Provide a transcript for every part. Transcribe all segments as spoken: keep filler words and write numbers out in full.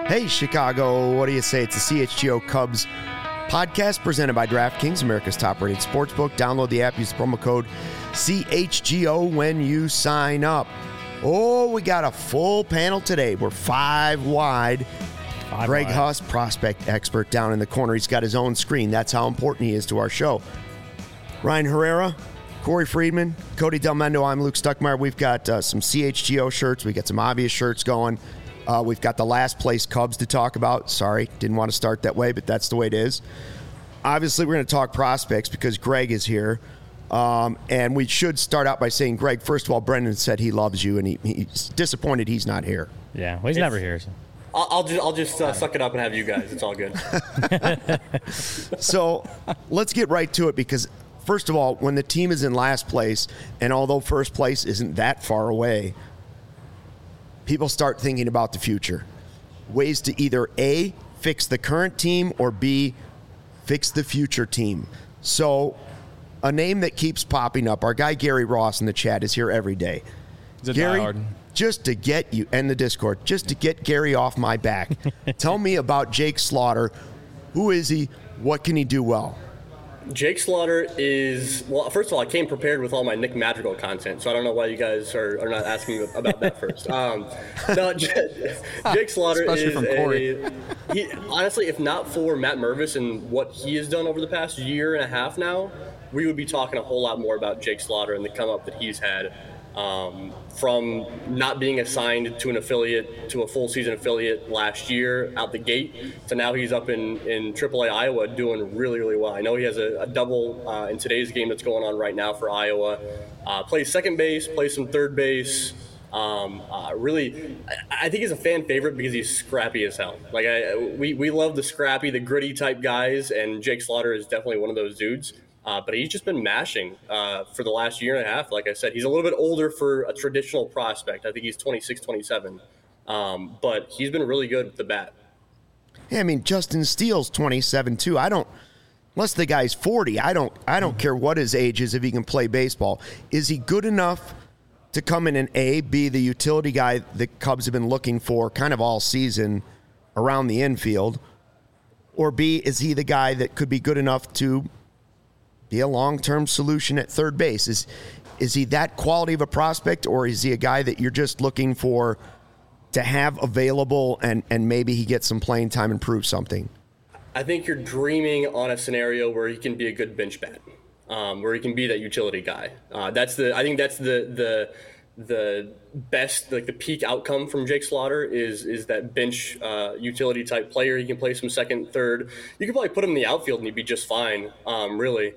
Hey, Chicago, what do you say? It's the C H G O Cubs podcast presented by DraftKings, America's top-rated sportsbook. Download the app, use the promo code C H G O when you sign up. Oh, we got a full panel today. We're five wide. Five Greg wide. Huss, prospect expert, down in the corner. He's got his own screen. That's how important he is to our show. Ryan Herrera, Corey Friedman, Cody Del Mendo. I'm Luke Stuckmeyer. We've got uh, some C H G O shirts. We got some obvious shirts going. Uh, we've got the last place Cubs to talk about. Sorry, didn't want to start that way, but that's the way it is. Obviously, we're going to talk prospects because Greg is here. Um, and we should start out by saying, Greg, first of all, Brendan said he loves you, and he, he's disappointed he's not here. Yeah, well, he's it's, never here. So. I'll, I'll just, I'll just uh, suck it up and have you guys. It's all good. So let's get right to it because, first of all, when the team is in last place, and although first place isn't that far away, people start thinking about the future. Ways to either A, fix the current team, or B, fix the future team. So a name that keeps popping up, our guy Gary Ross in the chat is here every day. He's a Gary, diehard. just to get you, and the Discord, just to get Gary off my back, tell me about Jake Slaughter. Who is he? What can he do well? Jake Slaughter is, well, first of all, I came prepared with all my Nick Madrigal content, so I don't know why you guys are, are not asking me about that first. Um, no, J- Jake Slaughter Especially is from Corey. a, he, honestly, if not for Matt Mervis and what he has done over the past year and a half now, we would be talking a whole lot more about Jake Slaughter and the come up that he's had. Um, from not being assigned to an affiliate, to a full season affiliate last year out the gate, to now he's up in, in triple A Iowa doing really, really well. I know he has a, a double uh, in today's game that's going on right now for Iowa. Uh, plays second base, plays some third base. Um, uh, really, I, I think he's a fan favorite because he's scrappy as hell. Like I, we, we love the scrappy, the gritty type guys, and Jake Slaughter is definitely one of those dudes. Uh, but he's just been mashing uh, for the last year and a half. Like I said, he's a little bit older for a traditional prospect. I think he's twenty-six, twenty-seven. Um, but he's been really good with the bat. Yeah, I mean, Justin Steele's twenty-seven, too. I don't, unless the guy's forty, I don't I don't care what his age is if he can play baseball. Is he good enough to come in and A, be the utility guy the Cubs have been looking for kind of all season around the infield? Or B, is he the guy that could be good enough to be a long-term solution at third base? Is is he that quality of a prospect, or is he a guy that you're just looking for to have available and, and maybe he gets some playing time and prove something? I think you're dreaming on a scenario where he can be a good bench bat, um, where he can be that utility guy. Uh, that's the I think that's the the the best, like the peak outcome from Jake Slaughter is is that bench uh, utility type player. He can play some second, third. You could probably put him in the outfield and he'd be just fine, um, really.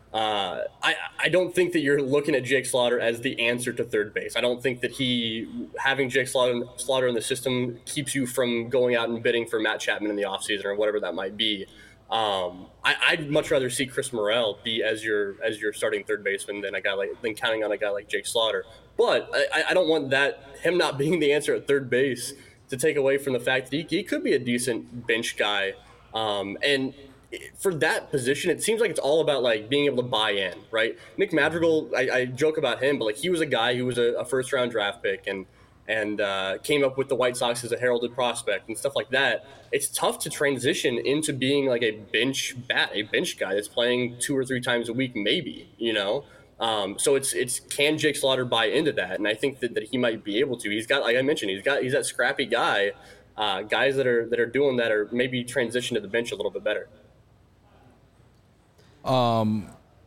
Uh, I, I don't think that you're looking at Jake Slaughter as the answer to third base. I don't think that he, having Jake Slaughter, Slaughter in the system keeps you from going out and bidding for Matt Chapman in the offseason or whatever that might be. Um, I, I'd much rather see Chris Morel be as your as your starting third baseman than a guy like than counting on a guy like Jake Slaughter. But I, I don't want that him not being the answer at third base to take away from the fact that he, he could be a decent bench guy. Um, and for that position, it seems like it's all about like being able to buy in, right? Nick Madrigal, I, I joke about him, but like he was a guy who was a, a first round draft pick and and uh, came up with the White Sox as a heralded prospect and stuff like that. It's tough to transition into being like a bench bat, a bench guy that's playing two or three times a week, maybe, you know? Um, so it's, it's, can Jake Slaughter buy into that? And I think that, that he might be able to. He's got, like I mentioned, he's got, he's that scrappy guy, uh, guys that are, that are doing that or maybe transition to the bench a little bit better. Um,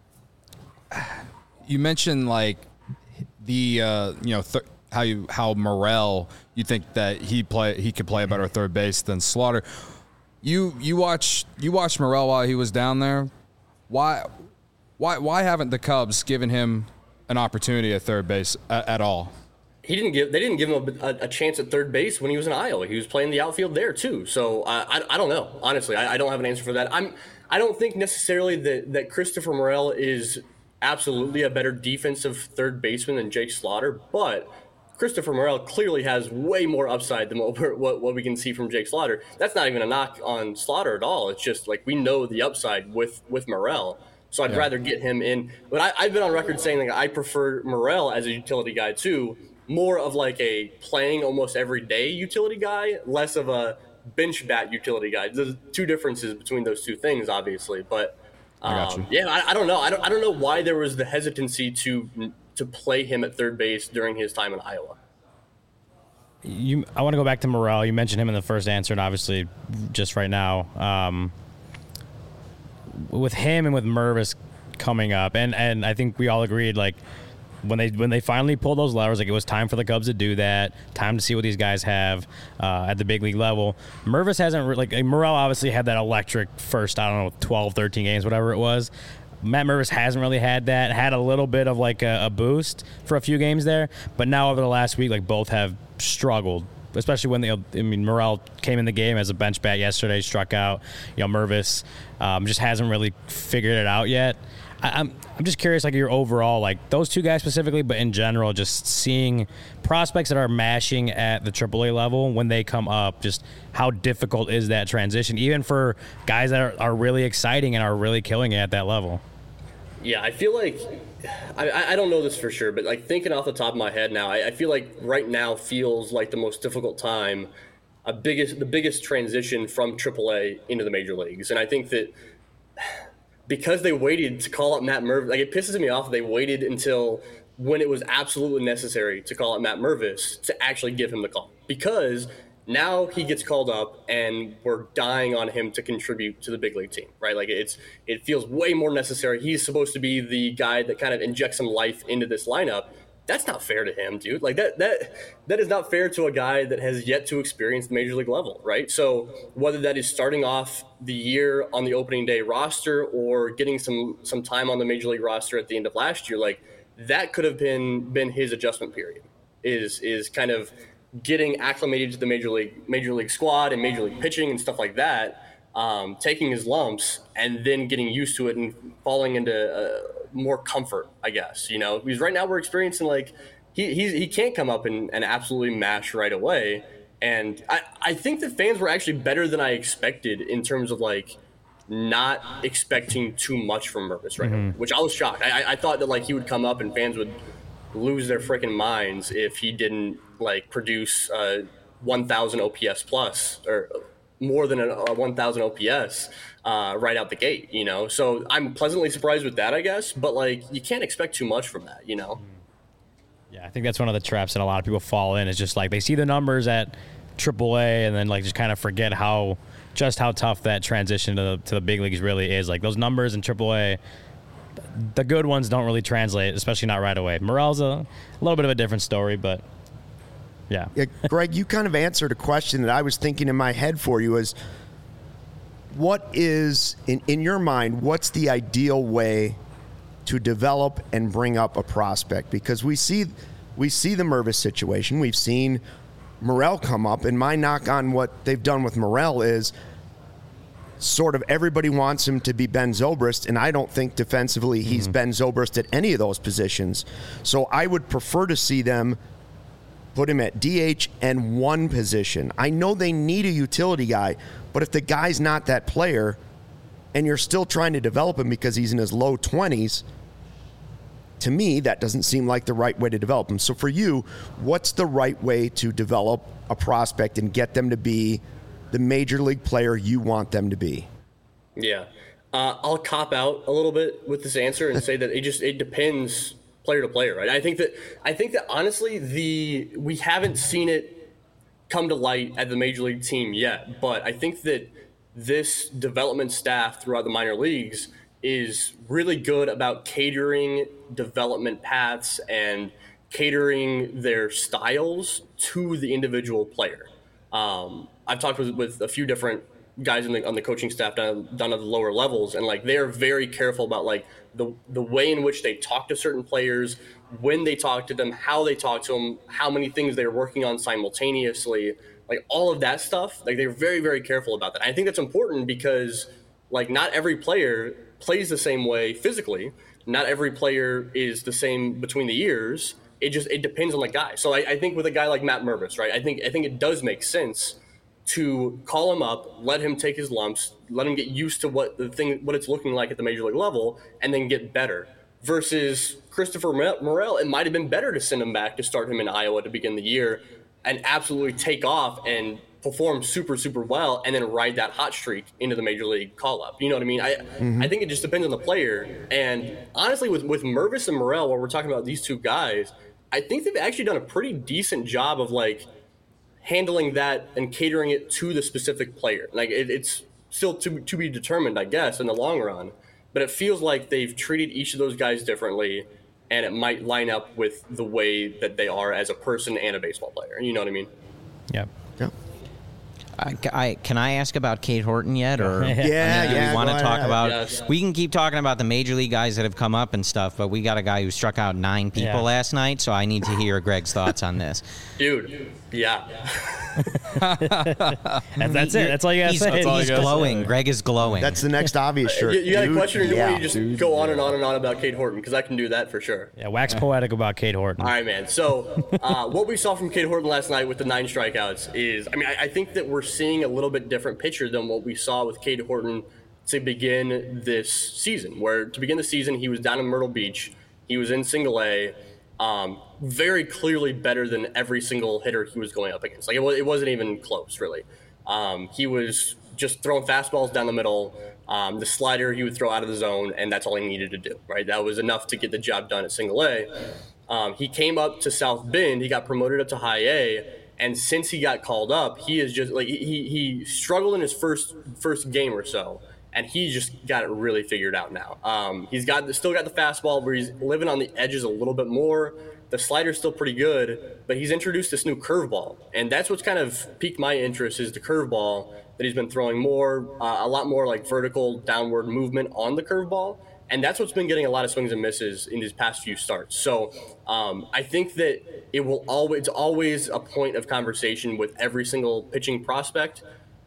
you mentioned like the uh, you know th- how you how Morel, you think that he play he could play a better third base than Slaughter. You you watch you watched Morel while he was down there. Why why why haven't the Cubs given him an opportunity at third base at, at all? He didn't give. They didn't give him a, a chance at third base when he was in Iowa. He was playing the outfield there too. So uh, I, I don't know. Honestly, I, I don't have an answer for that. I'm. I don't think necessarily that, that Christopher Morel is absolutely a better defensive third baseman than Jake Slaughter, but Christopher Morel clearly has way more upside than what, we're, what what we can see from Jake Slaughter. That's not even a knock on Slaughter at all. It's just like we know the upside with with Morel. So I'd yeah. rather get him in. But I, I've been on record saying that I prefer Morel as a utility guy too. More of like a playing almost every day utility guy, less of a bench bat utility guy. There's two differences between those two things, obviously. But um, yeah, I, I don't know. I don't I don't know why there was the hesitancy to to play him at third base during his time in Iowa. You, I want to go back to Morel. You mentioned him in the first answer, and obviously just right now. Um, with him and with Mervis coming up, and, and I think we all agreed, like, when they when they finally pulled those levers, like, it was time for the Cubs to do that, time to see what these guys have uh, at the big league level. Mervis hasn't, re- like, Morel obviously had that electric first, I don't know, twelve, thirteen games, whatever it was. Matt Mervis hasn't really had that, had a little bit of, like, a, a boost for a few games there, but now over the last week, like, both have struggled, especially when they, I mean, Morel came in the game as a bench bat yesterday, struck out. You know, Mervis um, just hasn't really figured it out yet. I, I'm I'm just curious, like, your overall, like, those two guys specifically, but in general, just seeing prospects that are mashing at the triple A level when they come up, just how difficult is that transition, even for guys that are, are really exciting and are really killing it at that level? Yeah, I feel like, I, I don't know this for sure, but like thinking off the top of my head now, I, I feel like right now feels like the most difficult time, a biggest the biggest transition from triple A into the major leagues. And I think that because they waited to call up Matt Mervis, like it pisses me off they waited until when it was absolutely necessary to call up Matt Mervis to actually give him the call. Because now he gets called up and we're dying on him to contribute to the big league team, right? Like it's, it feels way more necessary. He's supposed to be the guy that kind of injects some life into this lineup. That's not fair to him, dude. Like that, that, that is not fair to a guy that has yet to experience the major league level, right? So whether that is starting off the year on the opening day roster or getting some, some time on the major league roster at the end of last year, like that could have been, been his adjustment period is, is kind of getting acclimated to the major league major league squad and major league pitching and stuff like that, um, taking his lumps and then getting used to it and falling into uh, more comfort, I guess, you know, because right now we're experiencing like he he's, he can't come up and, and absolutely mash right away. And I, I think the fans were actually better than I expected in terms of like not expecting too much from Mervis right mm-hmm. now, which I was shocked. I, I thought that like he would come up and fans would lose their freaking minds if he didn't like produce uh, one thousand O P S plus or more than a, a one thousand O P S uh, right out the gate, you know? So I'm pleasantly surprised with that, I guess, but like you can't expect too much from that, you know? Yeah, I think that's one of the traps that a lot of people fall in is just like they see the numbers at triple A and then like just kind of forget how just how tough that transition to the, to the big leagues really is. Like those numbers in triple A, the good ones don't really translate, especially not right away. Morel's a, a little bit of a different story, but yeah. yeah. Greg, you kind of answered a question that I was thinking in my head for you is what is, in, in your mind, what's the ideal way to develop and bring up a prospect? Because we see we see the Mervis situation. We've seen Morel come up, and my knock on what they've done with Morel is sort of everybody wants him to be Ben Zobrist, and I don't think defensively he's mm-hmm. Ben Zobrist at any of those positions. So I would prefer to see them put him at D H and one position. I know they need a utility guy, but if the guy's not that player and you're still trying to develop him because he's in his low twenties, to me, that doesn't seem like the right way to develop him. So for you, what's the right way to develop a prospect and get them to be the major league player you want them to be? Yeah. Uh, I'll cop out a little bit with this answer and say that it just, it depends player to player, right? I think that, I think that honestly, the, we haven't seen it come to light at the major league team yet, but I think that this development staff throughout the minor leagues is really good about catering development paths and catering their styles to the individual player. Um, I've talked with, with a few different guys in the, on the coaching staff down, down at the lower levels, and like they're very careful about like the the way in which they talk to certain players, when they talk to them, how they talk to them, how many things they're working on simultaneously, like all of that stuff. Like they're very, very careful about that. And I think that's important because like not every player plays the same way physically. Not every player is the same between the ears. It just it depends on the guy. So I, I think with a guy like Matt Mervis, right? I think I think it does make sense to call him up, let him take his lumps, let him get used to what the thing, what it's looking like at the major league level, and then get better. Versus Christopher Morel, it might have been better to send him back to start him in Iowa to begin the year and absolutely take off and perform super, super well and then ride that hot streak into the major league call up. You know what I mean? I mm-hmm. I think it just depends on the player. And honestly, with, with Mervis and Morel, while we're talking about these two guys, I think they've actually done a pretty decent job of like handling that and catering it to the specific player. Like it, it's still to, to be determined, I guess, in the long run. But it feels like they've treated each of those guys differently, and it might line up with the way that they are as a person and a baseball player. You know what I mean? Yep. Yep. I, I, can I ask about Cade Horton yet, or yeah, I mean, yeah, we want to talk ahead. about? Yes. We can keep talking about the major league guys that have come up and stuff, but we got a guy who struck out nine people Yeah. last night, so I need to hear Greg's thoughts on this. Dude, yeah. That's, that's it. That's all you got to He's, say. he's That's all you gotta glowing. say. Greg is glowing. That's the next obvious shirt. You, you got Dude, a question, or do you yeah. want me to just Dude, go on and on and on about Cade Horton? Because I can do that for sure. Yeah, wax poetic about Cade Horton. All right, man. So uh, what we saw from Cade Horton last night with the nine strikeouts is, I mean, I, I think that we're seeing a little bit different picture than what we saw with Cade Horton to begin this season, where to begin the season, he was down in Myrtle Beach. He was in single A, um, very clearly better than every single hitter he was going up against. Like, it, was, it wasn't even close, really. Um, he was just throwing fastballs down the middle. Um, the slider he would throw out of the zone, and that's all he needed to do, right? That was enough to get the job done at single A. Um, he came up to South Bend. He got promoted up to high A. And since he got called up, he is just like he he struggled in his first first game or so, and he just got it really figured out now. Um, he's got still got the fastball where he's living on the edges a little bit more. The slider's still pretty good, but he's introduced this new curveball, and that's what's kind of piqued my interest is the curveball that he's been throwing more, uh, a lot more like vertical downward movement on the curveball. And that's what's been getting a lot of swings and misses in these past few starts. So um, I think that it will always, it's always a point of conversation with every single pitching prospect,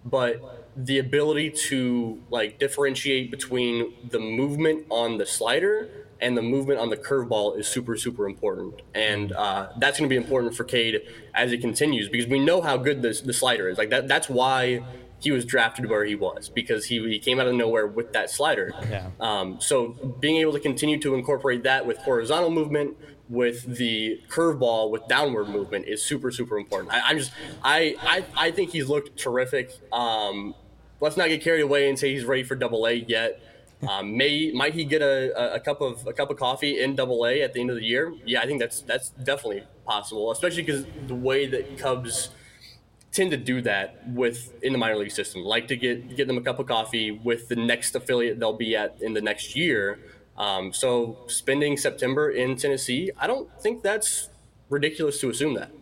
but the ability to like differentiate between the movement on the slider and the movement on the curveball is super, super important. And uh, that's going to be important for Cade as it continues, because we know how good this, the slider is. Like that, that's why he was drafted where he was, because he, he came out of nowhere with that slider. Yeah. Um, so being able to continue to incorporate that with horizontal movement, with the curveball, with downward movement is super, super important. I, I'm just, I, I, I think he's looked terrific. Um, let's not get carried away and say he's ready for Double A yet. Um, may might he get a, a cup of a cup of coffee in Double A at the end of the year? Yeah, I think that's that's definitely possible, especially because the way that Cubs tend to do that with in the minor league system, like to get get them a cup of coffee with the next affiliate they'll be at in the next year. Um, so spending September in Tennessee, I don't think that's ridiculous to assume that.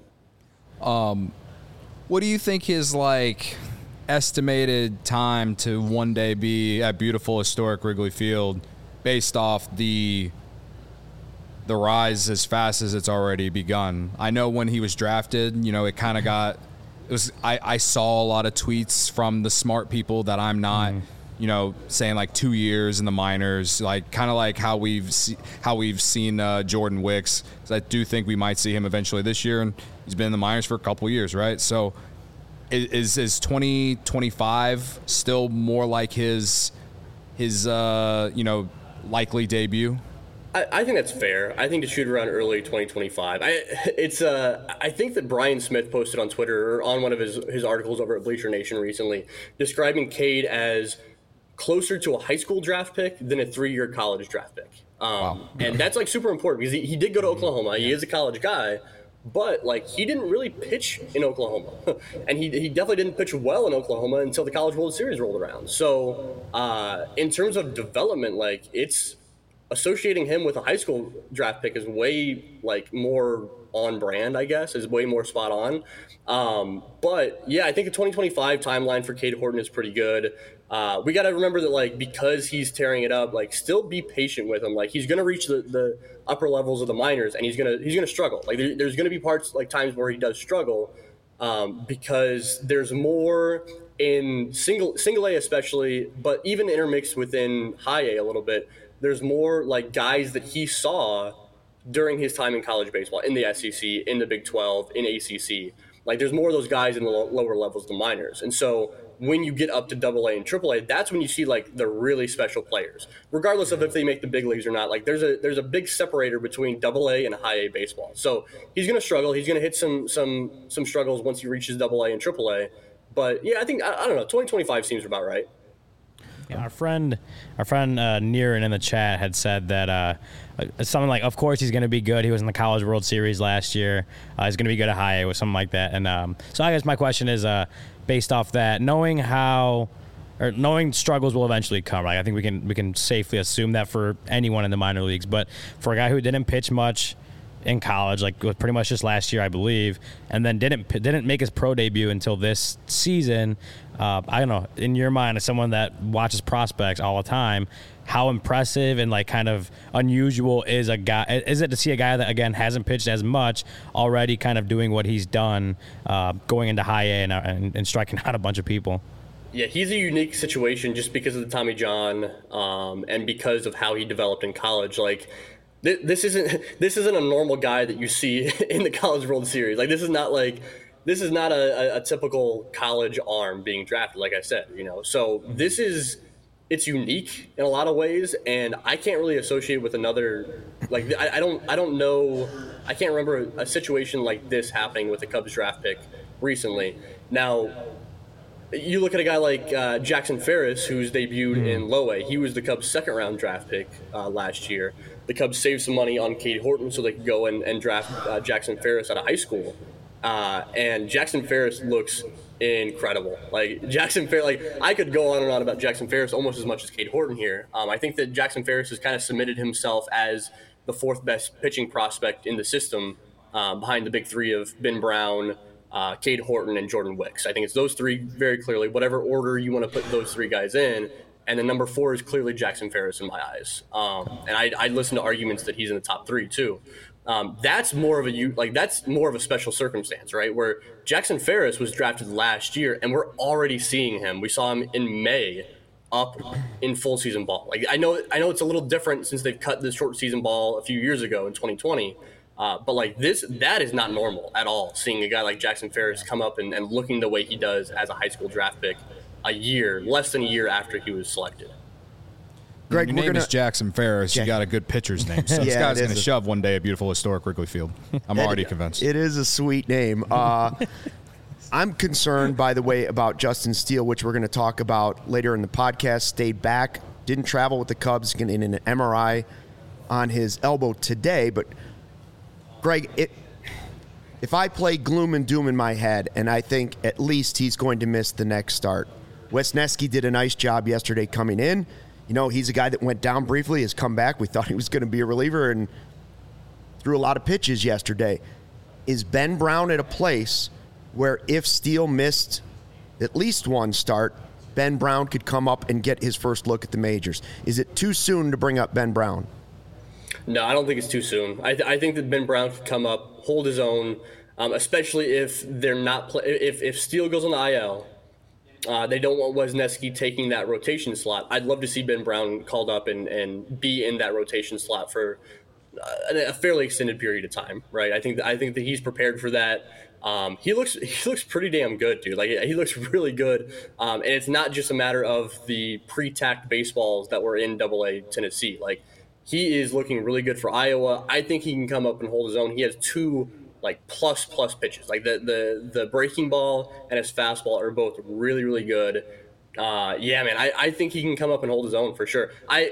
Um, what do you think his like estimated time to one day be at beautiful historic Wrigley Field, based off the the rise as fast as it's already begun? I know when he was drafted, you know, it kind of got. It was I, I saw a lot of tweets from the smart people that I'm not, mm. you know, saying like two years in the minors, like kind of like how we've see, how we've seen uh, Jordan Wicks. Because I do think we might see him eventually this year, and he's been in the minors for a couple years, right? So is is twenty twenty-five still more like his his uh, you know likely debut? I, I think that's fair. I think to shoot around early twenty twenty-five. I it's uh I think that Brian Smith posted on Twitter or on one of his his articles over at Bleacher Nation recently, describing Cade as closer to a high school draft pick than a three-year college draft pick. Um, wow. And that's like super important because he, he did go to Oklahoma. He is a college guy, but like he didn't really pitch in Oklahoma, and he he definitely didn't pitch well in Oklahoma until the College World Series rolled around. So uh, in terms of development, like it's. Associating him with a high school draft pick is way like more on brand, I guess, is way more spot on. Um, but yeah, I think the twenty twenty-five timeline for Cade Horton is pretty good. Uh, we got to remember that like, because he's tearing it up, like still be patient with him. Like he's going to reach the, the upper levels of the minors and he's going to, he's going to struggle. Like there, there's going to be parts like times where he does struggle um, because there's more in single, single A especially, but even intermixed within high A a little bit. There's more like guys that he saw during his time in college baseball, in the S E C, in the Big twelve, in A C C. Like there's more of those guys in the lower levels, the minors. And so when you get up to Double A and Triple A, that's when you see like the really special players, regardless of if they make the big leagues or not. Like there's a there's a big separator between Double A and high A baseball. So he's going to struggle. He's going to hit some some some struggles once he reaches Double A and Triple A. But yeah, I think I, I don't know. twenty twenty-five seems about right. Yeah, our friend, our friend uh, Niran in the chat had said that uh, something like, "Of course he's going to be good. He was in the College World Series last year. Uh, he's going to be good at high A," or something like that. And um, so I guess my question is, uh, based off that, knowing how, or knowing struggles will eventually come. Right? I think we can we can safely assume that for anyone in the minor leagues. But for a guy who didn't pitch much in college, like it was pretty much just last year, I believe, and then didn't didn't make his pro debut until this season. Uh, I don't know. In your mind, as someone that watches prospects all the time, how impressive and like kind of unusual is a guy? Is it to see a guy that again hasn't pitched as much already, kind of doing what he's done, uh, going into high A and, and, and striking out a bunch of people? Yeah, he's a unique situation just because of the Tommy John um, and because of how he developed in college. Like. This isn't this isn't a normal guy that you see in the College World Series. Like this is not like this is not a, a, a typical college arm being drafted. Like I said, you know. So this is it's unique in a lot of ways, and I can't really associate with another. Like I, I don't I don't know I can't remember a, a situation like this happening with a Cubs draft pick recently. Now. You look at a guy like uh, Jackson Ferris, who's debuted mm. in low A. He was the Cubs' second-round draft pick uh, last year. The Cubs saved some money on Cade Horton so they could go and, and draft uh, Jackson Ferris out of high school. Uh, and Jackson Ferris looks incredible. Like Jackson Ferris, like I could go on and on about Jackson Ferris almost as much as Cade Horton here. Um, I think that Jackson Ferris has kind of submitted himself as the fourth best pitching prospect in the system, uh, behind the big three of Ben Brown, Uh, Cade Horton, and Jordan Wicks. I think it's those three very clearly, whatever order you want to put those three guys in. And then number four is clearly Jackson Ferris in my eyes. Um, and I, I listen to arguments that he's in the top three too. Um, that's more of a like that's more of a special circumstance, right? Where Jackson Ferris was drafted last year, and we're already seeing him. We saw him in May up in full season ball. Like I know, I know it's a little different since they've cut the short season ball a few years ago in twenty twenty. Uh, but like this, that is not normal at all. Seeing a guy like Jackson Ferris come up and, and looking the way he does as a high school draft pick, a year, less than a year after he was selected. Greg, your name gonna, is Jackson Ferris. Jack- you got a good pitcher's name. So this yeah, guy's going to a, shove one day at beautiful historic Wrigley Field. I'm already it, convinced. It is a sweet name. Uh, I'm concerned, by the way, about Justin Steele, which we're going to talk about later in the podcast. Stayed back, didn't travel with the Cubs, getting an M R I on his elbow today, but. Greg, it, if I play gloom and doom in my head, and I think at least he's going to miss the next start. Wesneski did a nice job yesterday coming in. You know, he's a guy that went down briefly, has come back. We thought he was going to be a reliever and threw a lot of pitches yesterday. Is Ben Brown at a place where if Steele missed at least one start, Ben Brown could come up and get his first look at the majors? Is it too soon to bring up Ben Brown? No, I don't think it's too soon. I, th- I think that Ben Brown could come up, hold his own, um, especially if they're not play- if if Steele goes on the I L. Uh, they don't want Wesneski taking that rotation slot. I'd love to see Ben Brown called up and, and be in that rotation slot for uh, a fairly extended period of time, right? I think that, I think that he's prepared for that. Um, he looks he looks pretty damn good, dude. Like he looks really good, um, and it's not just a matter of the pre-tacked baseballs that were in Double A Tennessee, like. He is looking really good for Iowa. I think he can come up and hold his own. He has two like plus plus pitches. Like the the the breaking ball and his fastball are both really really good. Uh, yeah, man, I, I think he can come up and hold his own for sure. I,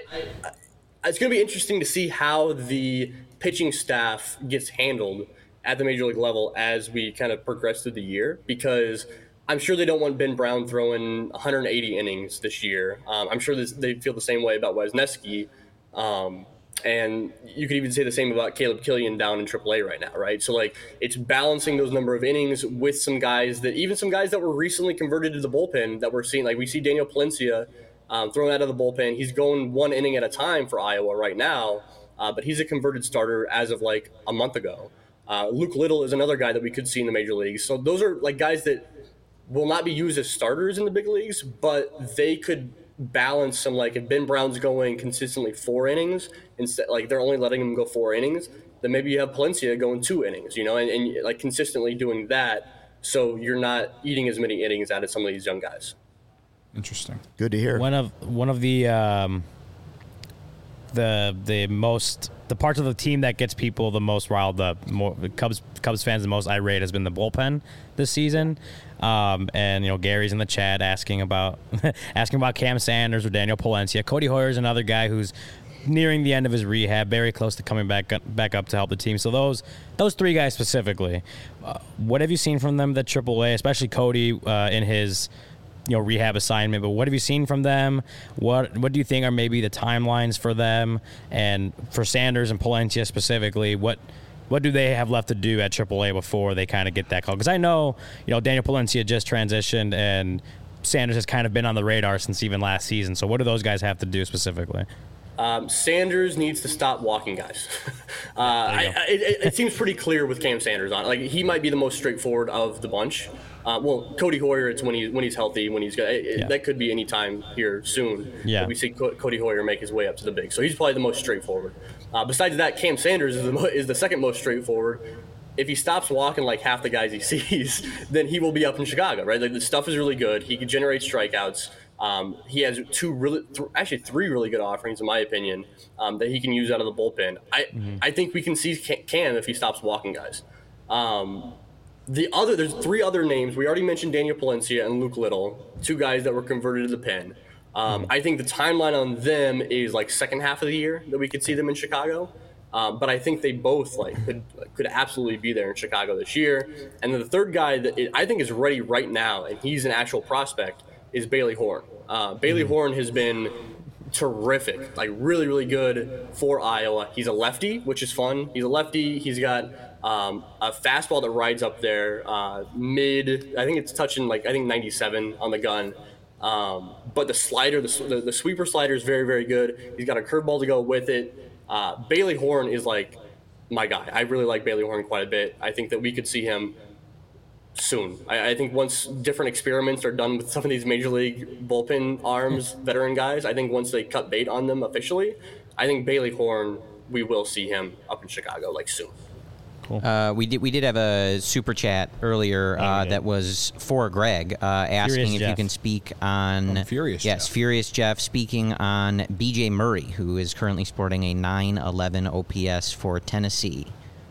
I it's going to be interesting to see how the pitching staff gets handled at the major league level as we kind of progress through the year, because I'm sure they don't want Ben Brown throwing one hundred eighty innings this year. Um, I'm sure this, they feel the same way about Wesneski. Um, and you could even say the same about Caleb Killian down in triple A right now, right? So, like, it's balancing those number of innings with some guys that, even some guys that were recently converted to the bullpen that we're seeing. Like, we see Daniel Palencia um, thrown out of the bullpen. He's going one inning at a time for Iowa right now, uh, but he's a converted starter as of, like, a month ago. Uh, Luke Little is another guy that we could see in the major leagues. So those are, like, guys that will not be used as starters in the big leagues, but they could – balance some, like if Ben Brown's going consistently four innings instead, like they're only letting him go four innings, then maybe you have Palencia going two innings, you know, and, and like consistently doing that, so you're not eating as many innings out of some of these young guys. Interesting. Good to hear. One of one of the um, the the most the parts of the team that gets people the most riled up, more Cubs Cubs fans the most irate, has been the bullpen this season. Um, and you know, Gary's in the chat asking about asking about Cam Sanders or Daniel Palencia. Cody Hoyer's another guy who's nearing the end of his rehab, very close to coming back back up to help the team. So those those three guys specifically, uh, what have you seen from them at triple A, especially Cody uh, in his you know rehab assignment? But what have you seen from them? What what do you think are maybe the timelines for them, and for Sanders and Palencia specifically? What what do they have left to do at triple A before they kind of get that call? Because I know you know Daniel Palencia just transitioned, and Sanders has kind of been on the radar since even last season. So what do those guys have to do specifically? Um, Sanders needs to stop walking guys. uh, I, I, it, it seems pretty clear with Cam Sanders on. Like, he might be the most straightforward of the bunch. Uh, well, Cody Hoyer, it's when he's when he's healthy, when he's good. It, yeah. That could be any time here soon. Yeah. That we see Co- Cody Hoyer make his way up to the big. So he's probably the most straightforward. Uh, besides that, Cam Sanders is the mo- is the second most straightforward. If he stops walking like half the guys he sees, then he will be up in Chicago, right? Like, the stuff is really good. He can generate strikeouts. Um, he has two really, th- actually three really good offerings, in my opinion, um, that he can use out of the bullpen. I, mm-hmm. I think we can see Cam if he stops walking guys. Um, the other, there's three other names. We already mentioned Daniel Palencia and Luke Little, two guys that were converted to the pen. Um, mm-hmm. I think the timeline on them is like second half of the year that we could see them in Chicago. Um, but I think they both like could could absolutely be there in Chicago this year. And then the third guy that it, I think is ready right now, and he's an actual prospect, is Bailey Horn. Uh, Bailey Horn has been terrific, like really, really good for Iowa. He's a lefty, which is fun. He's a lefty. He's got um, a fastball that rides up there, uh, mid. I think it's touching like I think ninety-seven on the gun. Um, but the slider, the, the the sweeper slider is very, very good. He's got a curveball to go with it. Uh, Bailey Horn is like my guy. I really like Bailey Horn quite a bit. I think that we could see him soon. I, I think once different experiments are done with some of these major league bullpen arms, veteran guys, I think once they cut bait on them officially, I think Bailey Horn, we will see him up in Chicago like soon. Cool. Uh, we did we did have a super chat earlier uh, oh, that was for Greg uh, asking Furious if Jeff. you can speak on Oh, Furious yes Jeff. Furious Jeff speaking on B J Murray, who is currently sporting a nine eleven O P S for Tennessee.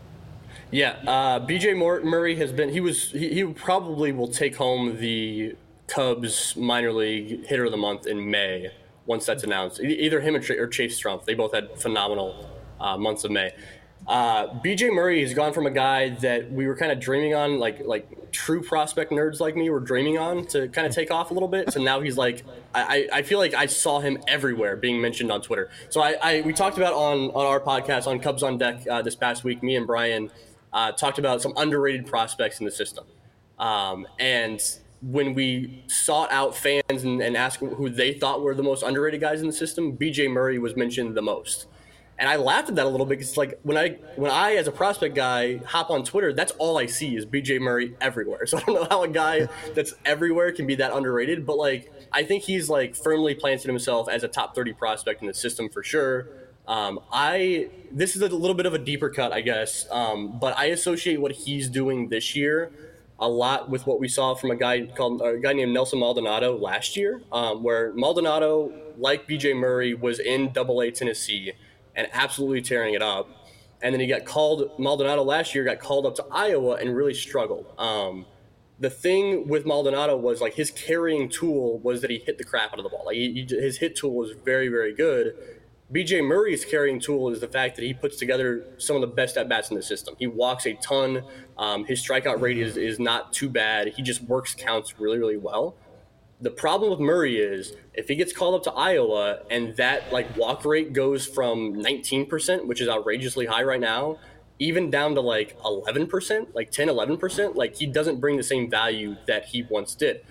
Yeah, uh, B J Murray has been. He was. He, he probably will take home the Cubs minor league hitter of the month in May once that's announced. Either him or Chase Strumpf. They both had phenomenal uh, months of May. Uh, B J Murray has gone from a guy that we were kind of dreaming on, like like true prospect nerds like me were dreaming on, to kind of take off a little bit. So now he's like, I, I feel like I saw him everywhere being mentioned on Twitter. So I, I we talked about on on our podcast on Cubs on Deck uh, this past week. Me and Brian uh, talked about some underrated prospects in the system, um, and when we sought out fans and, and asked who they thought were the most underrated guys in the system, B J Murray was mentioned the most. And I laughed at that a little bit because it's like when I, when I, as a prospect guy, hop on Twitter, that's all I see is B J Murray everywhere. So I don't know how a guy that's everywhere can be that underrated. But, like, I think he's, like, firmly planted himself as a top thirty prospect in the system for sure. Um, I this is a little bit of a deeper cut, I guess. Um, but I associate what he's doing this year a lot with what we saw from a guy called a guy named Nelson Maldonado last year, um, where Maldonado, like B J Murray, was in Double A Tennessee and absolutely tearing it up. And then he got called, Maldonado last year got called up to Iowa and really struggled. Um, the thing with Maldonado was, like, his carrying tool was that he hit the crap out of the ball. Like, he, he, his hit tool was very, very good. B J Murray's carrying tool is the fact that he puts together some of the best at-bats in the system. He walks a ton. Um, his strikeout rate is, is not too bad. He just works counts really, really well. The problem with Murray is if he gets called up to Iowa and that, like, walk rate goes from nineteen percent, which is outrageously high right now, even down to like eleven percent, like ten, eleven percent, like, he doesn't bring the same value that he once did.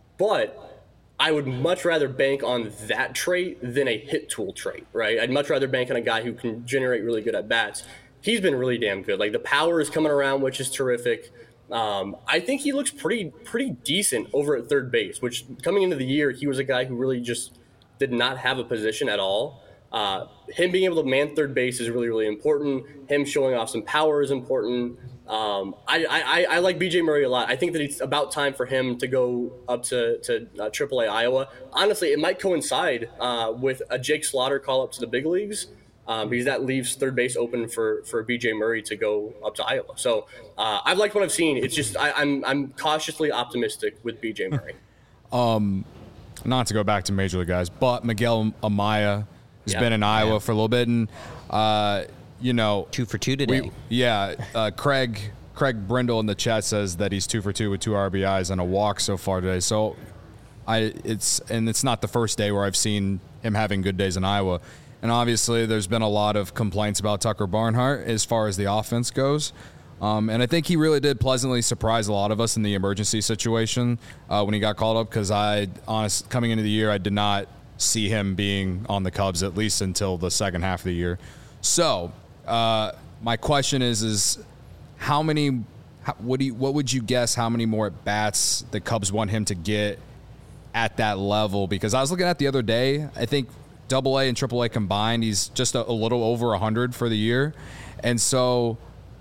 But I would much rather bank on that trait than a hit tool trait, right? I'd much rather bank on a guy who can generate really good at bats. He's been really damn good. Like, the power is coming around, which is terrific. Um, I think he looks pretty pretty decent over at third base, which coming into the year, he was a guy who really just did not have a position at all. Uh, him being able to man third base is really, really important. Him showing off some power is important. Um, I, I, I like B J Murray a lot. I think that it's about time for him to go up to, to uh, triple A Iowa. Honestly, it might coincide uh, with a Jake Slaughter call up to the big leagues. Um, because that leaves third base open for, for B J Murray to go up to Iowa. So uh, I've liked what I've seen. It's just I, I'm I'm cautiously optimistic with B J Murray. um, not to go back to Major League guys, but Miguel Amaya has Yeah. been in Iowa Yeah. for a little bit, and uh, you know, Two for two today. we, yeah, uh, Craig Craig Brindle in the chat says that he's two for two with two R B Is and a walk so far today. So I it's and it's not the first day where I've seen him having good days in Iowa. And obviously, there's been a lot of complaints about Tucker Barnhart as far as the offense goes. Um, and I think he really did pleasantly surprise a lot of us in the emergency situation uh, when he got called up, because I, honest, coming into the year, I did not see him being on the Cubs, at least until the second half of the year. So uh, my question is, is how many, how, what do you, what would you guess how many more at-bats the Cubs want him to get at that level? Because I was looking at the other day, I think Double A and Triple A combined, he's just a, a little over one hundred for the year. And so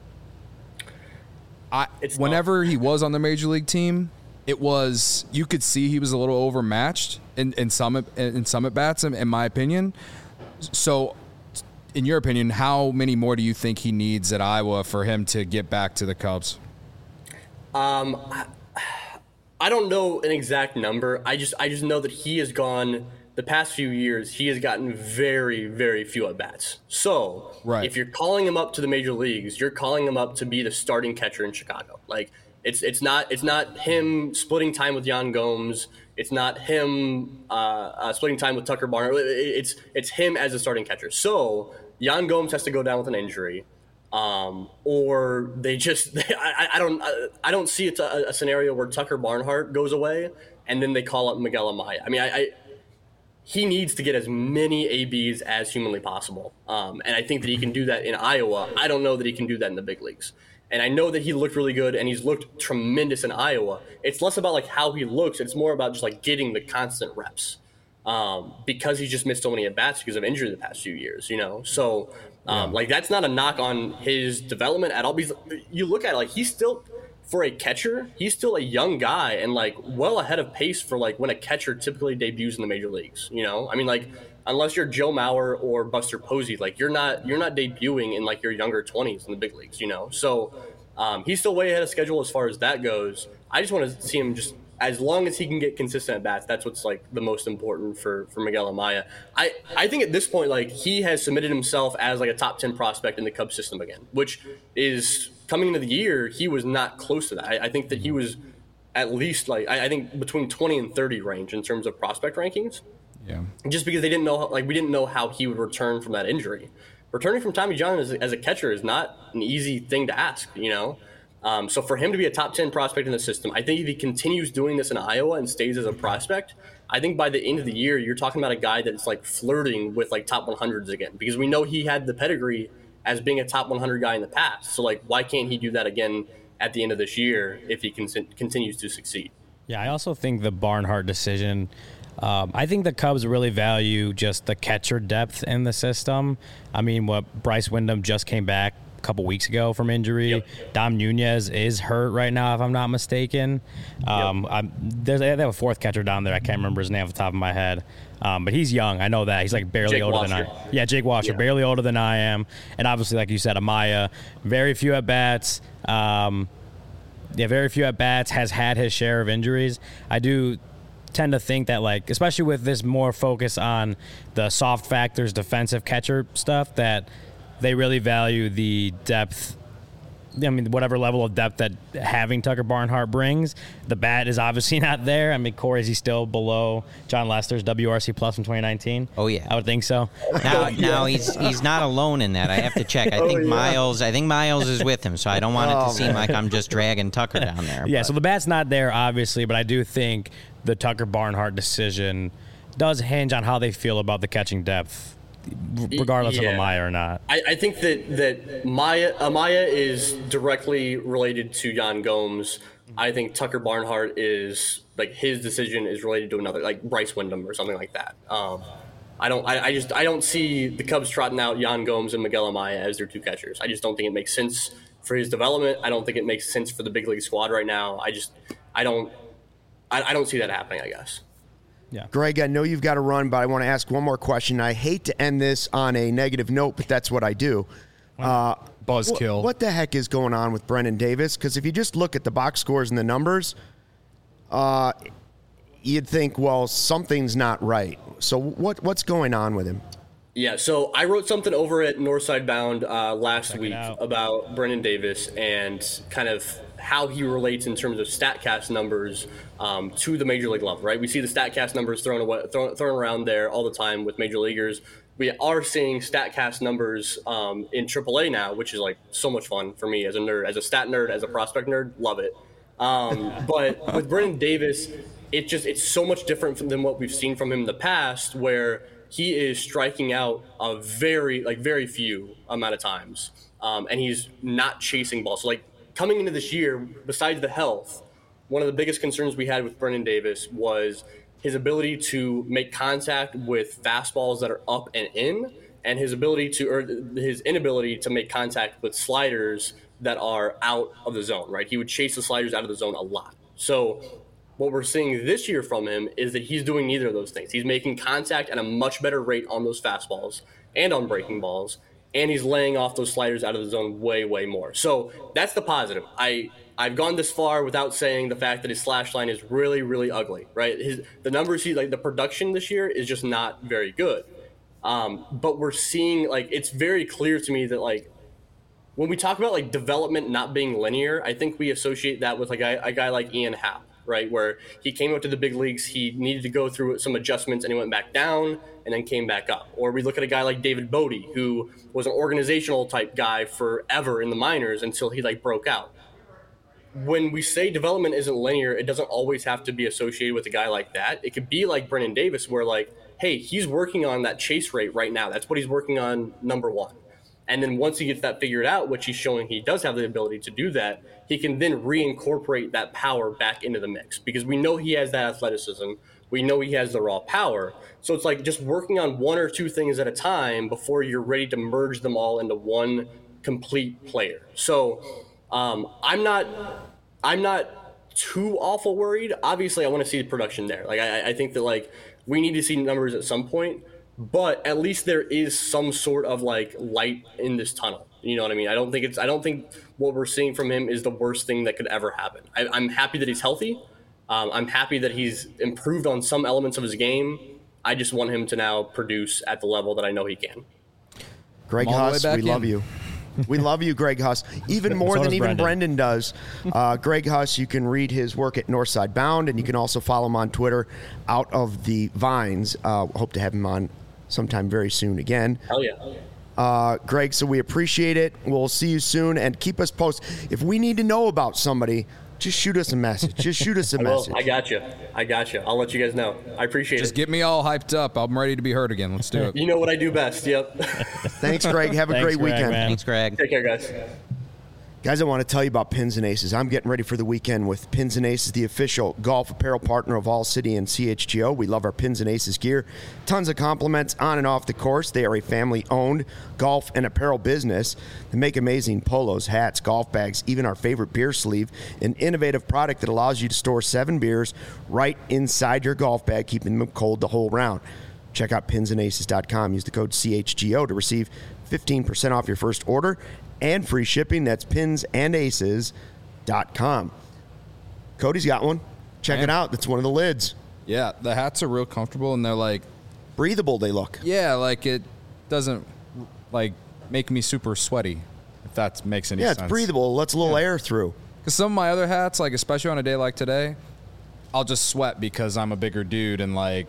I, It's whenever he was on the Major League team, it was, you could see he was a little overmatched in, in some in some at-bats, in, in my opinion. So in your opinion, how many more do you think he needs at Iowa for him to get back to the Cubs? Um, I, I don't know an exact number. I just I just know that he has gone the past few years. He has gotten very very few at bats. So Right. if you're calling him up to the major leagues, you're calling him up to be the starting catcher in Chicago. Like it's it's not it's not him splitting time with Yan Gomes. It's not him uh, uh, splitting time with Tucker Barnhart. It's it's him as a starting catcher. So Yan Gomes has to go down with an injury. Um, or they just, they, I, I don't, I, I don't see it a, a scenario where Tucker Barnhart goes away and then they call up Miguel Amaya. I mean, I, I he needs to get as many A Bs as humanly possible. Um, and I think that he can do that in Iowa. I don't know that he can do that in the big leagues. And I know that he looked really good and he's looked tremendous in Iowa. It's less about like how he looks. It's more about just like getting the constant reps. Um, because he's just missed so many at-bats because of injury the past few years, you know? So, um, yeah. like, that's not a knock on his development at all. Because you look at it, like, he's still, for a catcher, he's still a young guy and, like, well ahead of pace for, like, when a catcher typically debuts in the major leagues, you know? I mean, like, unless you're Joe Mauer or Buster Posey, like, you're not you're not debuting in, like, your younger twenties in the big leagues, you know? So, um, he's still way ahead of schedule as far as that goes. I just want to see him just – as long as he can get consistent at bats, that's what's like the most important for, for Miguel Amaya. I, I think at this point, like he has submitted himself as like a top ten prospect in the Cubs system again, which is coming into the year. He was not close to that. I, I think that he was at least like, I, I think between twenty and thirty range in terms of prospect rankings. Yeah. Just because they didn't know, like we didn't know how he would return from that injury. Returning from Tommy John as, as a catcher is not an easy thing to ask, you know? Um, so for him to be a top ten prospect in the system, I think if he continues doing this in Iowa and stays as a prospect, I think by the end of the year, you're talking about a guy that's like flirting with like top one hundreds again, because we know he had the pedigree as being a top one hundred guy in the past. So like, why can't he do that again at the end of this year if he con- continues to succeed? Yeah, I also think the Barnhart decision, um, I think the Cubs really value just the catcher depth in the system. I mean, what Bryce Wyndham just came back couple weeks ago from injury. Yep. Dom Nunez is hurt right now, if I'm not mistaken. Um, yep. I'm, there's, they have a fourth catcher down there. I can't remember his name off the top of my head. Um, but he's young. I know that. He's like barely Jake older Washer. than I Yeah, Jake Washer, yeah. barely older than I am. And obviously, like you said, Amaya, very few at-bats. Um, yeah, very few at-bats, has had his share of injuries. I do tend to think that, like, especially with this more focus on the soft factors, defensive catcher stuff, that they really value the depth. I mean, whatever level of depth that having Tucker Barnhart brings. The bat is obviously not there. I mean, Corey, is he still below John Lester's W R C plus from twenty nineteen? Oh yeah, I would think so. Now, now he's he's not alone in that. I have to check. I think oh, yeah. Miles. I think Miles is with him, so I don't want it to oh, seem man. like I'm just dragging Tucker down there. Yeah, but. so the bat's not there, obviously, but I do think the Tucker Barnhart decision does hinge on how they feel about the catching depth, regardless yeah. of Amaya or not. I, I think that that Maya, Amaya is directly related to Yan Gomes. I think Tucker Barnhart is like his decision is related to another, like Bryce Wyndham or something like that. Um, I don't. I, I just. I don't see the Cubs trotting out Yan Gomes and Miguel Amaya as their two catchers. I just don't think it makes sense for his development. I don't think it makes sense for the big league squad right now. I just. I don't. I, I don't see that happening, I guess. Yeah. Greg, I know you've got to run, but I want to ask one more question. I hate to end this on a negative note, but that's what I do. Uh, Buzzkill. What, what the heck is going on with Brendan Davis? Because if you just look at the box scores and the numbers, uh, you'd think, well, something's not right. So what what's going on with him? Yeah, so I wrote something over at Northside Bound uh, last Check it week out. about Brendan Davis and kind of how he relates in terms of StatCast numbers um, to the major league level, right? We see the StatCast numbers thrown, away, thrown, thrown around there all the time with major leaguers. We are seeing StatCast numbers um, in triple A now, which is like so much fun for me as a nerd, as a stat nerd, as a prospect nerd, love it. Um, but with Brendan Davis, it just it's so much different from, than what we've seen from him in the past, where he is striking out a very like very few amount of times, um, and he's not chasing balls. So like coming into this year, besides the health, one of the biggest concerns we had with Brendan Davis was his ability to make contact with fastballs that are up and in, and his ability to or his inability to make contact with sliders that are out of the zone. Right, he would chase the sliders out of the zone a lot. So what we're seeing this year from him is that he's doing neither of those things. He's making contact at a much better rate on those fastballs and on breaking balls, and he's laying off those sliders out of the zone way, way more. So that's the positive. I, I've gone this far without saying the fact that his slash line is really, really ugly, right? His the numbers, he like the production this year is just not very good. Um, but we're seeing, like, it's very clear to me that, like, when we talk about, like, development not being linear, I think we associate that with, like, a, a guy like Ian Happ, right, where he came up to the big leagues, he needed to go through some adjustments, and he went back down and then came back up. Or we look at a guy like David Bodie, who was an organizational type guy forever in the minors until he like broke out. When we say development isn't linear, it doesn't always have to be associated with a guy like that. It could be like Brendan Davis, where like, hey, he's working on that chase rate right now. That's what he's working on, number one. And then once he gets that figured out, which he's showing he does have the ability to do that, he can then reincorporate that power back into the mix, because we know he has that athleticism. We know he has the raw power. So it's like just working on one or two things at a time before you're ready to merge them all into one complete player. So um, I'm not, I'm not too awful worried. Obviously, I want to see the production there. Like I, I think that like we need to see numbers at some point. But at least there is some sort of like light in this tunnel. You know what I mean? I don't think it's. I don't think what we're seeing from him is the worst thing that could ever happen. I, I'm happy that he's healthy. Um, I'm happy that he's improved on some elements of his game. I just want him to now produce at the level that I know he can. Greg I'm all the way Huss, back we in. love you. We love you, Greg Huss, even more So than does even Brendan, Brendan. does. Uh, Greg Huss, you can read his work at Northside Bound, and you can also follow him on Twitter, Out of the Vines. Uh, hope to have him on sometime very soon again. Hell yeah. Uh, Greg, so we appreciate it. We'll see you soon, and keep us posted. If we need to know about somebody, just shoot us a message. Just shoot us a I will. message. I got you. I got you. I'll let you guys know. I appreciate Just it. get me all hyped up. I'm ready to be heard again. Let's do it. You know what I do best. Yep. Thanks, Greg. Have a Thanks, great Greg, weekend. man. Thanks, Greg. Take care, guys. Guys, I want to tell you about Pins and Aces. I'm getting ready for the weekend with Pins and Aces, the official golf apparel partner of All City and C H G O. We love our Pins and Aces gear. Tons of compliments on and off the course. They are a family-owned golf and apparel business. They make amazing polos, hats, golf bags, even our favorite beer sleeve, an innovative product that allows you to store seven beers right inside your golf bag, keeping them cold the whole round. Check out pins and aces dot com. Use the code C H G O to receive fifteen percent off your first order and free shipping. That's pins and aces dot com. Cody's got one. Check Man. it out. That's one of the lids. Yeah, the hats are real comfortable, and they're like, Breathable they look. yeah, like it doesn't like make me super sweaty, if that makes any Yeah, sense. it's breathable. It lets a little air through. Because some of my other hats, like especially on a day like today, I'll just sweat because I'm a bigger dude and like,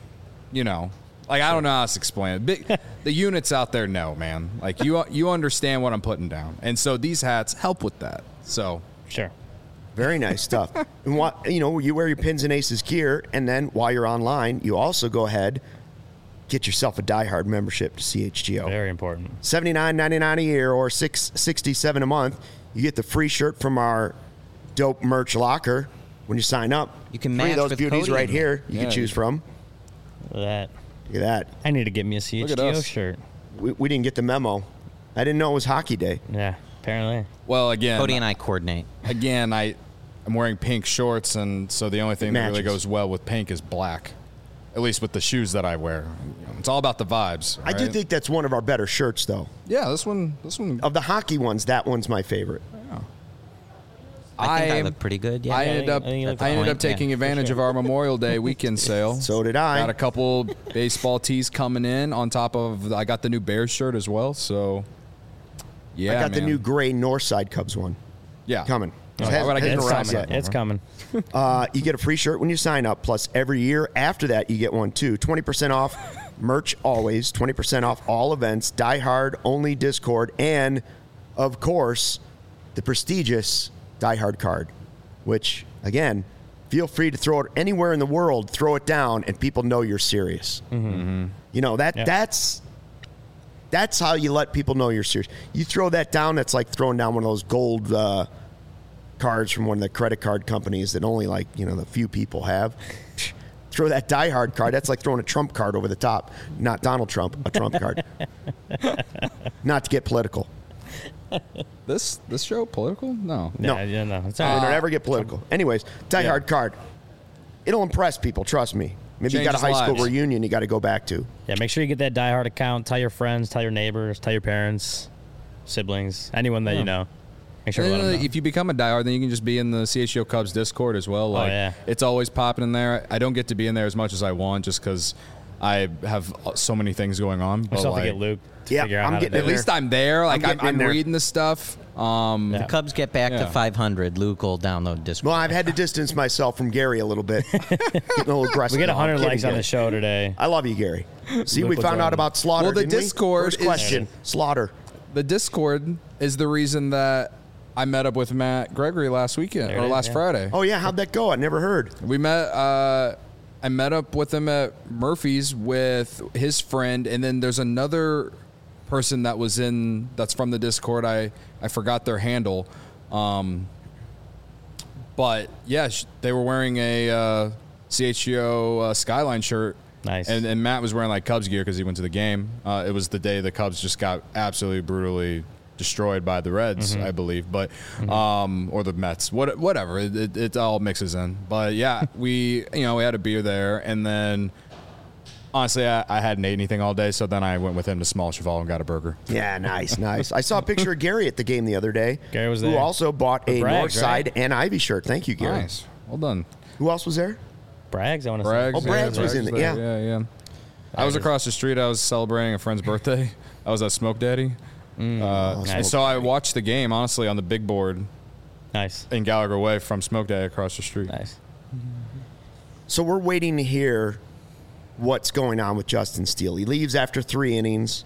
you know, like I don't know how else to explain it. Big, the units out there know, man. Like you, you understand what I'm putting down, and so these hats help with that. So Sure. Very nice stuff. And what you know, you wear your Pins and Aces gear, and then while you're online, you also go ahead, get yourself a Die Hard membership to C H G O. Very important. seventy-nine ninety-nine a year or six sixty-seven a month. You get the free shirt from our dope merch locker when you sign up. You can Three match of those with beauties Cody right in here you Yeah. can choose from. Look at that. Look at that. I need to get me a C H Look G at O us. shirt. We, we didn't get the memo. I didn't know it was hockey day. Yeah, apparently. well, again, Cody and I coordinate. again, I, I'm wearing pink shorts, and so the only thing that really Matches. goes well with pink is black. at least with the shoes that I wear. It's all about the vibes. I do right? think that's one of our better shirts, though. Yeah, this one, this one. Of the hockey ones, that one's my favorite. I think I, I- look pretty good. Yeah, I yeah, ended up I think you look I ended fine. up taking Yeah, advantage for of sure. our Memorial Day weekend sale. So did I. Got a couple baseball tees coming in on top of I got the new Bears shirt as well. So yeah, I got the man. new gray Northside Cubs one yeah coming. Oh, It why hasn't- would I get hasn't the arrived Rams yet. yet? It's coming. Uh, you get a free shirt when you sign up. Plus, every year after that, you get one too. twenty percent off merch always. twenty percent off all events. Die Hard only Discord, and of course, the prestigious Die Hard card. Which again, feel free to throw it anywhere in the world. Throw it down, and people know you're serious. Mm-hmm. You know that Yeah. that's that's how you let people know you're serious. You throw that down, that's like throwing down one of those gold. Uh, cards from one of the credit card companies that only like you know the few people have. Throw that Die Hard card. That's like throwing a Trump card over the top. Not Donald Trump, a Trump card. Not to get political. This this show political? No. No. Yeah, yeah, no. It's We all right. don't ever get political. Anyways, Die Yeah. Hard card. It'll impress people. Trust me. Maybe you got a Changes high school lives. reunion you got to go back to. Yeah, make sure you get that Die Hard account. Tell your friends, tell your neighbors, tell your parents, siblings, anyone that you know. Make sure to And let then them know. if you become a diehard, then you can just be in the C H G O Cubs Discord as well. Like, yeah. it's always popping in there. I don't get to be in there as much as I want, just because I have so many things going on. We But still have to like, get Luke to Yeah, figure out I'm how to getting do in at it. least I'm there. Like I'm, getting in I'm there. reading the stuff. Um, Yeah. Cubs get back Yeah. to five hundred. Luke will download Discord. Well, I've had to distance myself from Gary a little bit. Getting a little aggressive. We get No, I'm one hundred kidding, likes on Gary. the show today. I love you, Gary. See, Luke we will found join. out about Slaughter. Well, the didn't we? Discord First is- question. Slaughter. the Discord is the reason that I met up with Matt Gregory last weekend There or it is, last yeah. Friday. Oh yeah, how'd that go? I never heard. We met. Uh, I met up with him at Murphy's with his friend, and then there's another person that was in that's from the Discord. I I forgot their handle, um, but yeah, sh- they were wearing a uh, C H G O uh, Skyline shirt. Nice. And, and Matt was wearing like Cubs gear because he went to the game. Uh, it was the day the Cubs just got absolutely brutally destroyed by the Reds, Mm-hmm. I believe, but um, or the Mets, what, whatever. It, it, it all mixes in. But yeah, we you know we had a beer there, and then honestly, I, I hadn't ate anything all day, so then I went with him to Small Cheval and got a burger. Yeah, nice, nice. I saw a picture of Gary at the game the other day. Gary was Who there. also bought a Brags, Northside right? and Ivy shirt. Thank you, Gary. Nice, well done. Who else was there? Brags, I want to Braggs, Oh, Braggs was in it, there. yeah. yeah, yeah. I was across the street. I was celebrating a friend's birthday. I was at Smoke Daddy. Mm. Uh, Nice. So I watched the game honestly on the big board Nice. in Gallagher Way from Smoke Daddy across the street. Nice. So we're waiting to hear what's going on with Justin Steele. He leaves after three innings,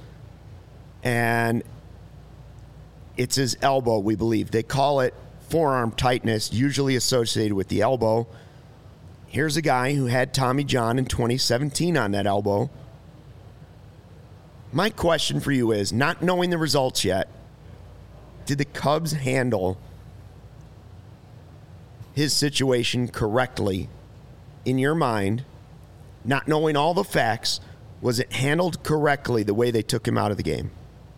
and it's his elbow, we believe. They call it forearm tightness, usually associated with the elbow. Here's a guy who had Tommy John in twenty seventeen on that elbow. My question for you is, not knowing the results yet, did the Cubs handle his situation correctly in your mind? Not knowing all the facts, was it handled correctly the way they took him out of the game?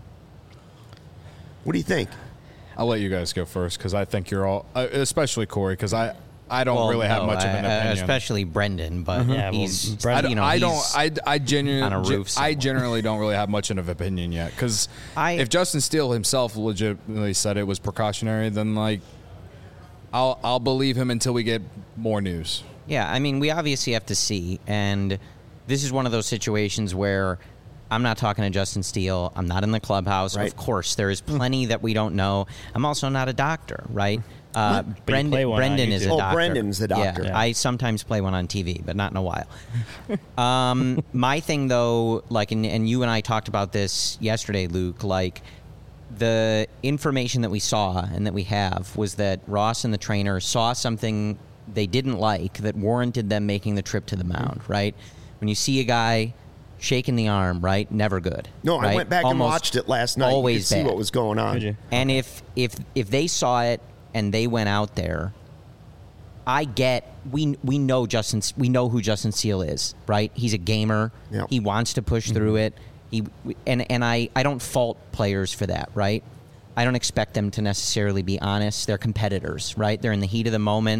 What do you think? I'll let you guys go first because I think you're all, uh, especially Corey, because I, I don't Well, really have no, much of an I- I- opinion. especially Brendan, but Yeah, well, he's Brendan- I don't. you know, I, don't he's- I, I genuinely. on a roof I somewhere. generally don't really have much of an opinion yet because I- if Justin Steele himself legitimately said it was precautionary, then like, I'll I'll believe him until we get more news. Yeah, I mean, we obviously have to see, and this is one of those situations where I'm not talking to Justin Steele. I'm not in the clubhouse. Right. Of course, there is plenty that we don't know. I'm also not a doctor, right? Uh, play Brendan, one on Brendan is a YouTube. Oh, doctor. Brendan's the doctor. Yeah, Yeah. I sometimes play one on T V, but not in a while. um, my thing, though, like, and, and you and I talked about this yesterday, Luke, like, the information that we saw and that we have was that Ross and the trainer saw something they didn't like that warranted them making the trip to the mound, right? When you see a guy shaking the arm, right? Never good. No, I right? went back and Almost watched it last night. Always you could see bad. what was going on. Did you? And if if if they saw it and they went out there, I get we we know Justin we know who Justin Steele is, right? He's a gamer. Yep. He wants to push through it. He and and I I don't fault players for that, right? I don't expect them to necessarily be honest. They're competitors, right? They're in the heat of the moment.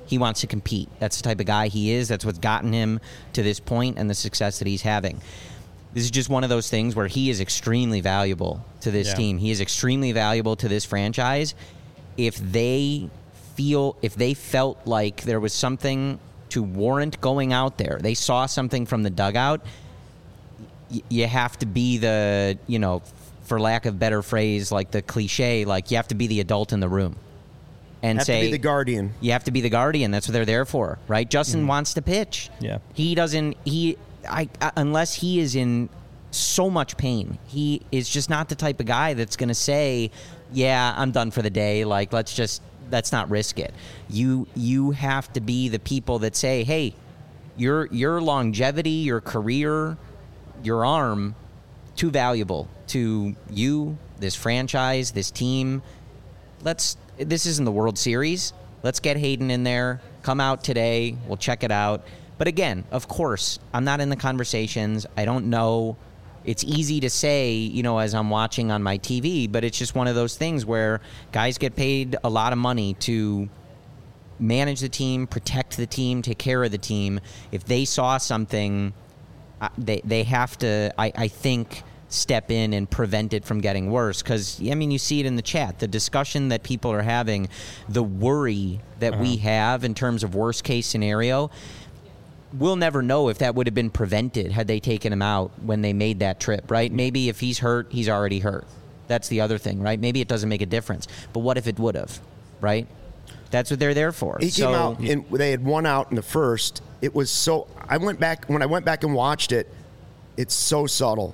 He wants to compete. That's the type of guy he is. That's what's gotten him to this point and the success that he's having. This is just one of those things where he is extremely valuable to this Yeah. team. He is extremely valuable to this franchise. If they feel, if they felt like there was something to warrant going out there, they saw something from the dugout, y- you have to be the, you know, for lack of better phrase, like the cliche, like you have to be the adult in the room. And Have say to be the guardian. you have to be the guardian. That's what they're there for, right? Justin wants to pitch. Yeah. He doesn't. He, I, I, unless he is in so much pain, he is just not the type of guy that's going to say, "Yeah, I'm done for the day." Like, let's just let's not risk it. You you have to be the people that say, "Hey, your your longevity, your career, your arm, too valuable to you, this franchise, this team. Let's." This isn't the World Series. Let's get Hayden in there. Come out today. We'll check it out. But again, of course, I'm not in the conversations. I don't know. It's easy to say, you know, as I'm watching on my T V, but it's just one of those things where guys get paid a lot of money to manage the team, protect the team, take care of the team. If they saw something, uh, they they have to, I, I think, step in and prevent it from getting worse. Because, I mean, you see it in the chat. The discussion that people are having, the worry that uh-huh. we have in terms of worst case scenario, we'll never know if that would have been prevented had they taken him out when they made that trip, right? Maybe if he's hurt, he's already hurt. That's the other thing, right? Maybe it doesn't make a difference. But what if it would have, right? That's what they're there for. He so, came out, and they had one out in the first. It was so, I went back, when I went back and watched it, it's so subtle.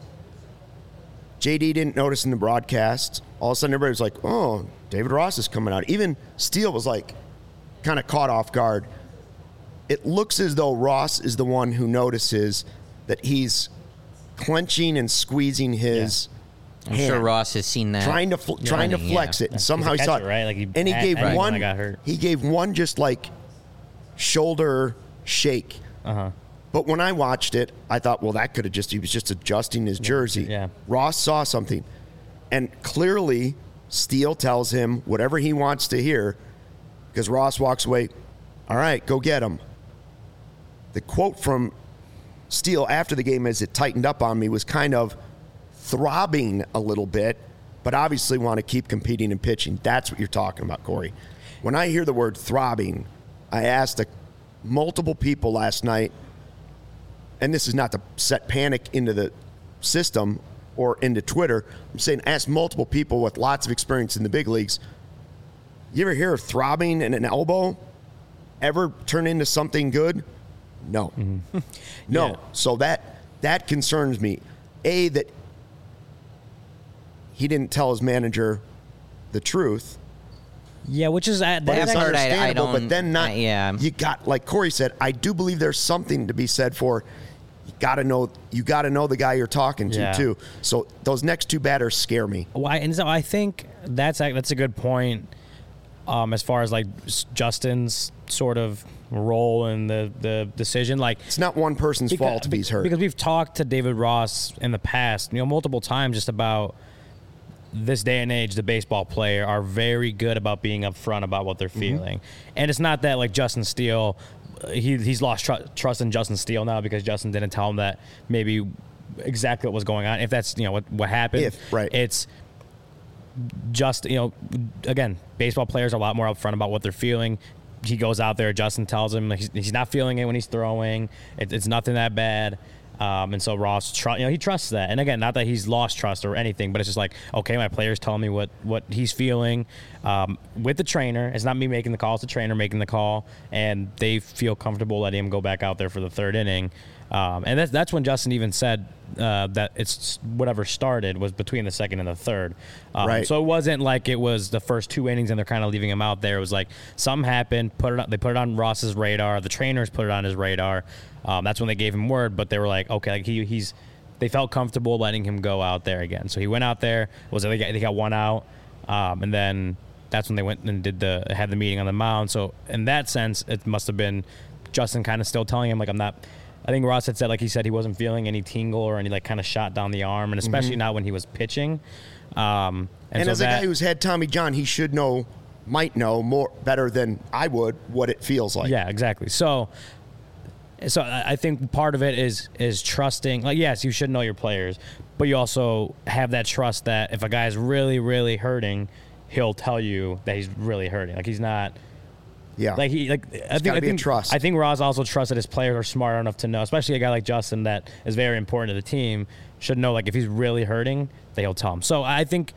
J D didn't notice in the broadcast. All of a sudden, everybody was like, oh, David Ross is coming out. Even Steele was like kind of caught off guard. It looks as though Ross is the one who notices that he's clenching and squeezing his yeah. I'm hand, sure Ross has seen that. Trying to fl- trying to flex yeah. it. And somehow he saw it. Right? Like he, and he at, gave at one when I got hurt. he gave one just like shoulder shake. Uh-huh. But when I watched it, I thought, well, that could have just, he was just adjusting his jersey. Yeah. Ross saw something. And clearly, Steele tells him whatever he wants to hear, because Ross walks away, all right, go get him. The quote from Steele after the game as it tightened up on me was kind of throbbing a little bit, but obviously want to keep competing and pitching. That's what you're talking about, Corey. When I hear the word throbbing, I asked a, multiple people last night, and this is not to set panic into the system or into Twitter. I'm saying ask multiple people with lots of experience in the big leagues. You ever hear of throbbing in an elbow ever turn into something good? No. Mm-hmm. no. Yeah. So that that concerns me. A, that he didn't tell his manager the truth. Yeah, which is uh, but that's it's part understandable. I, I don't, but then not. I, yeah. You got, like Corey said, I do believe there's something to be said for. You got to know. You got to know the guy you're talking to yeah. too. So those next two batters scare me. Well, I, and so I think that's a, that's a good point. Um, as far as like Justin's sort of role in the, the decision, like it's not one person's because, fault if he's hurt. Because we've talked to David Ross in the past, you know, multiple times just about this day and age. The baseball player are very good about being upfront about what they're feeling, mm-hmm. and it's not that like Justin Steele, he he's lost tr- trust in Justin Steele now because Justin didn't tell him that maybe exactly what was going on. If that's you know what what happened, if right, it's. Just, you know, again, baseball players are a lot more upfront about what they're feeling. He goes out there, Justin tells him like, he's, he's not feeling it when he's throwing. It, it's nothing that bad. Um, and so Ross, tr- you know, he trusts that. And again, not that he's lost trust or anything, but it's just like, okay, my player's telling me what, what he's feeling um, with the trainer. It's not me making the call, it's the trainer making the call. And they feel comfortable letting him go back out there for the third inning. Um, and that's, that's when Justin even said uh, that it's whatever started was between the second and the third. Um, right. So it wasn't like it was the first two innings and they're kind of leaving him out there. It was like something happened, put it on, they put it on Ross's radar. The trainers put it on his radar. Um, that's when they gave him word, but they were like, okay, like he, he's, they felt comfortable letting him go out there again. So he went out there, was they got, they got one out, um, and then that's when they went and did the had the meeting on the mound. So in that sense, it must have been Justin kind of still telling him like I'm not. I think Ross had said like he said he wasn't feeling any tingle or any like kind of shot down the arm, and especially mm-hmm. not when he was pitching. Um, and and so as that, a guy who's had Tommy John, he should know might know more better than I would what it feels like. Yeah, exactly. So, so I I think part of it is is trusting. Like, yes, you should know your players, but you also have that trust that if a guy's really, really hurting, he'll tell you that he's really hurting. Like he's not. Yeah. Like he like I think gotta I be a think trust. I think Ross also trusts that his players are smart enough to know, especially a guy like Justin that is very important to the team, should know like if he's really hurting, that he'll tell him. So I think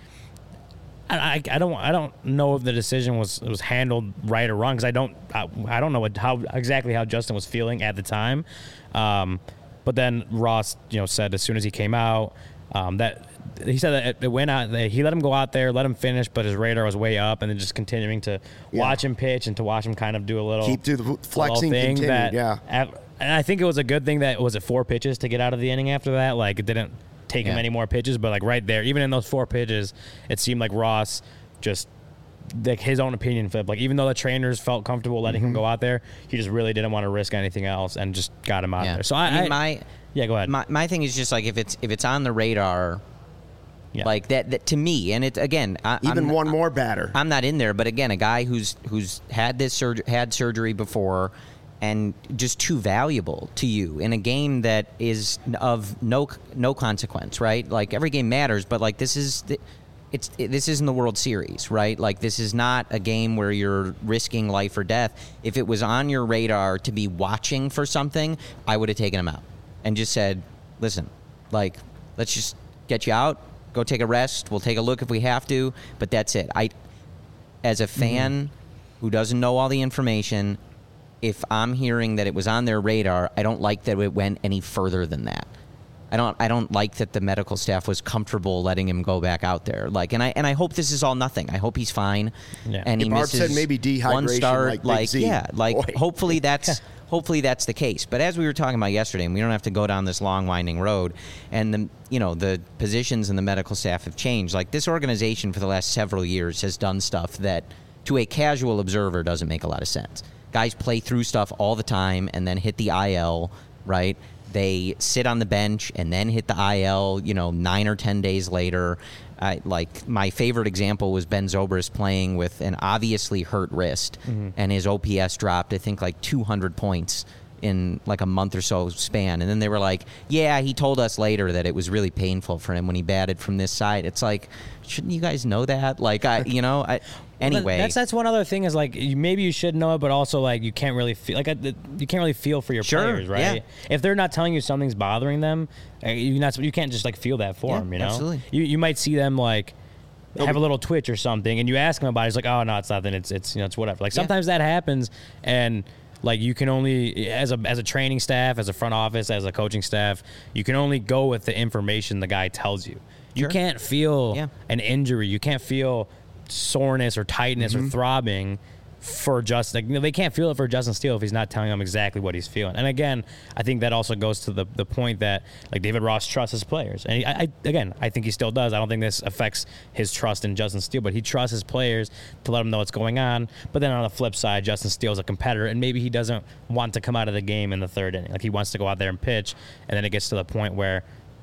I, I, I don't I don't know if the decision was was handled right or wrong because I don't I, I don't know what, how exactly how Justin was feeling at the time, um, but then Ross you know said as soon as he came out um, that he said that it, it went out that he let him go out there, let him finish, but his radar was way up, and then just continuing to Yeah. watch him pitch and to watch him kind of do a little Keep do the little flexing thing continued, that yeah. at- and I think it was a good thing that was it four pitches to get out of the inning after that. Like it didn't take him Yeah. any more pitches, but like right there, even in those four pitches, it seemed like Ross just like his own opinion flipped. Like even though the trainers felt comfortable letting Mm-hmm. him go out there, he just really didn't want to risk anything else and just got him out Yeah. there. So I, I mean, I my yeah, go ahead. my my thing is just like if it's if it's on the radar, Yeah. like that, that to me, and it again, I, Even I'm, one more batter. I'm not in there, but again, a guy who's who's had this surg- had surgery before, and just too valuable to you in a game that is of no no consequence, right? Like every game matters, but like this is the, it's it, this isn't the World Series, right? Like this is not a game where you're risking life or death. If it was on your radar to be watching for something, I would have taken him out and just said, "Listen, like let's just get you out." Go take a rest. We'll take a look if we have to, but that's it. I, as a fan Mm-hmm. who doesn't know all the information, if I'm hearing that it was on their radar, I don't like that it went any further than that. I don't. I don't like that the medical staff was comfortable letting him go back out there. Like, and I and I hope this is all nothing. I hope he's fine. Yeah. And he Barb misses said maybe one dehydration start. like Big like Z. yeah, like Boy. hopefully that's. Hopefully that's the case. But as we were talking about yesterday, and we don't have to go down this long winding road, and the you know the positions and the medical staff have changed. Like this organization for the last several years has done stuff that to a casual observer doesn't make a lot of sense. Guys play through stuff all the time and then hit the I L, right? They sit on the bench and then hit the I L, you know, nine or ten days later. I, like my favorite example was Ben Zobrist playing with an obviously hurt wrist, Mm-hmm. and his O P S dropped, I think, like two hundred points in like a month or so span. And then they were like, yeah, he told us later that it was really painful for him when he batted from this side. It's like, shouldn't you guys know that? Like, I, you know, I, anyway. that's that's one other thing is like you, maybe you should know it, but also like you can't really feel like I, you can't really feel for your Sure, players, right? yeah. If they're not telling you something's bothering them, uh, you not you can't just like feel that for Yeah, them, you know. absolutely. You you might see them like have a little twitch or something, and you ask them about it. It's like, oh no, it's nothing. It's it's you know it's whatever. Like Yeah. sometimes that happens, and like you can only as a as a training staff, as a front office, as a coaching staff, you can only go with the information the guy tells you. You Sure. can't feel Yeah. an injury. You can't feel soreness or tightness Mm-hmm. or throbbing for Justin. Like, you know, they can't feel it for Justin Steele if he's not telling them exactly what he's feeling. And again, I think that also goes to the the point that like David Ross trusts his players. And he, I, I again, I think he still does. I don't think this affects his trust in Justin Steele, but he trusts his players to let him know what's going on. But then on the flip side, Justin Steele's a competitor, and maybe he doesn't want to come out of the game in the third inning. Like he wants to go out there and pitch, and then it gets to the point where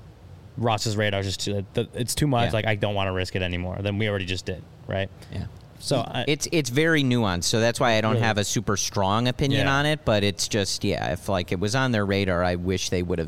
Ross's radar is just too, it's too much. Yeah. Like I don't want to risk it anymore. Then we already just did, right? Yeah. So I, It's it's very nuanced, so that's why I don't Really? have a super strong opinion Yeah. on it. But it's just yeah, if like it was on their radar, I wish they would have.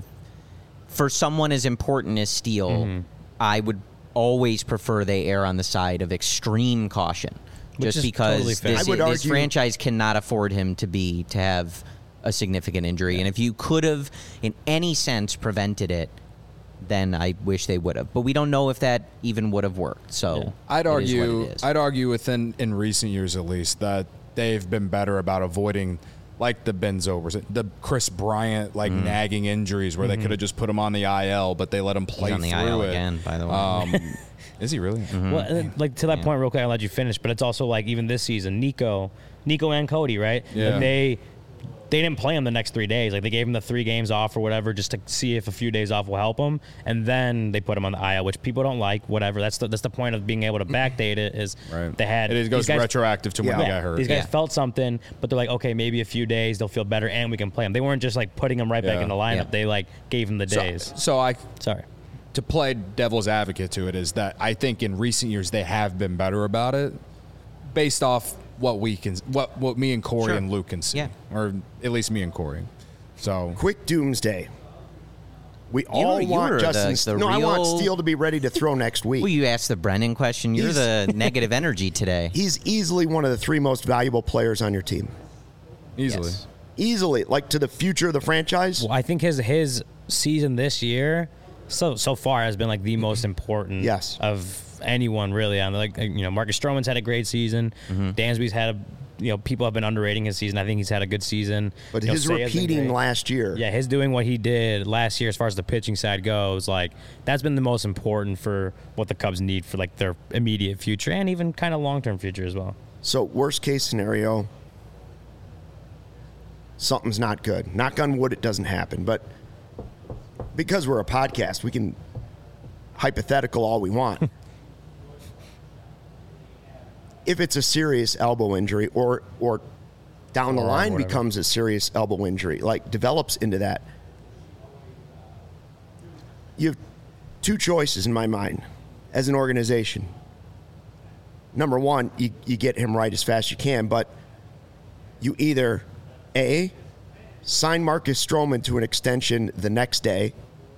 For someone as important as Steele, Mm-hmm. I would always prefer they err on the side of extreme caution, Which just is because totally fair. this, I would this argue- franchise cannot afford him to be to have a significant injury. And if you could have, in any sense, prevented it, then I wish they would have. But we don't know if that even would have worked. So Yeah. I'd it is what argue. it is. I'd argue within in recent years at least that they've been better about avoiding like the Ben Zobers, the Chris Bryant like nagging injuries where they could have just put him on the I L, but they let him play Mm-hmm. He's on the through I L it. again, by the way. Um, is he really? Well, and, like to that point, real quick, I'll let you finish. But it's also like even this season, Nico, Nico and Cody, right? Yeah. Like they they didn't play him the next three days. Like they gave him the three games off or whatever, just to see if a few days off will help him. And then they put him on the I L, which people don't like. Whatever. That's the that's the point of being able to backdate it. Is Right. they had It goes these guys- retroactive to when Yeah. they Yeah, got hurt. these guys Yeah. felt something, but they're like, okay, maybe a few days they'll feel better and we can play them. They weren't just like putting him right back Yeah. in the lineup. Yeah. They like gave him the So- days. So I Sorry. to play devil's advocate to it is that I think in recent years they have been better about it, based off what we can, what what me and Corey Sure. and Luke can see, Yeah. or at least me and Corey. So Quick doomsday. We all you want were Justin. the- the no, I want real- Steele to be ready to throw next week. Well, you asked the Brennan question. You're He's- the negative energy today. He's easily one of the three most valuable players on your team. easily. Yes. Easily, like to the future of the franchise. Well, I think his his season this year, so so far, has been like the most important. Yes. Of anyone really on like you know Marcus Stroman's had a great season. Mm-hmm. Dansby's had a you know people have been underrating his season. I think he's had a good season. But You know, his Seiya's been repeating great. last year. Yeah, his doing what he did last year as far as the pitching side goes, like that's been the most important for what the Cubs need for like their immediate future and even kind of long term future as well. So worst case scenario, something's not good. Knock on wood, it doesn't happen. But because we're a podcast, we can hypothetical all we want. If it's a serious elbow injury or or down the Or line whatever. becomes a serious elbow injury, like develops into that, you have two choices in my mind as an organization. Number one, you, you get him right as fast as you can, but you either A, sign Marcus Stroman to an extension the next day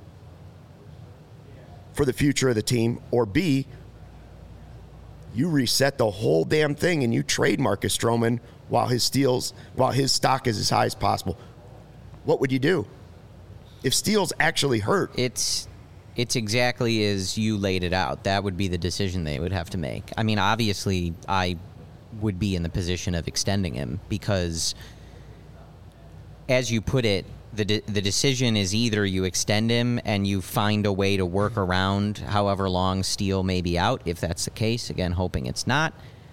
for the future of the team, or B, you reset the whole damn thing and you trade Marcus Stroman while his steals, while his stock is as high as possible. What would you do if Steele's actually hurt? It's it's exactly as you laid it out. That would be the decision they would have to make. I mean, obviously, I would be in the position of extending him because, as you put it, the de- the decision is either you extend him and you find a way to work around however long Steele may be out, if that's the case. Again, hoping it's not.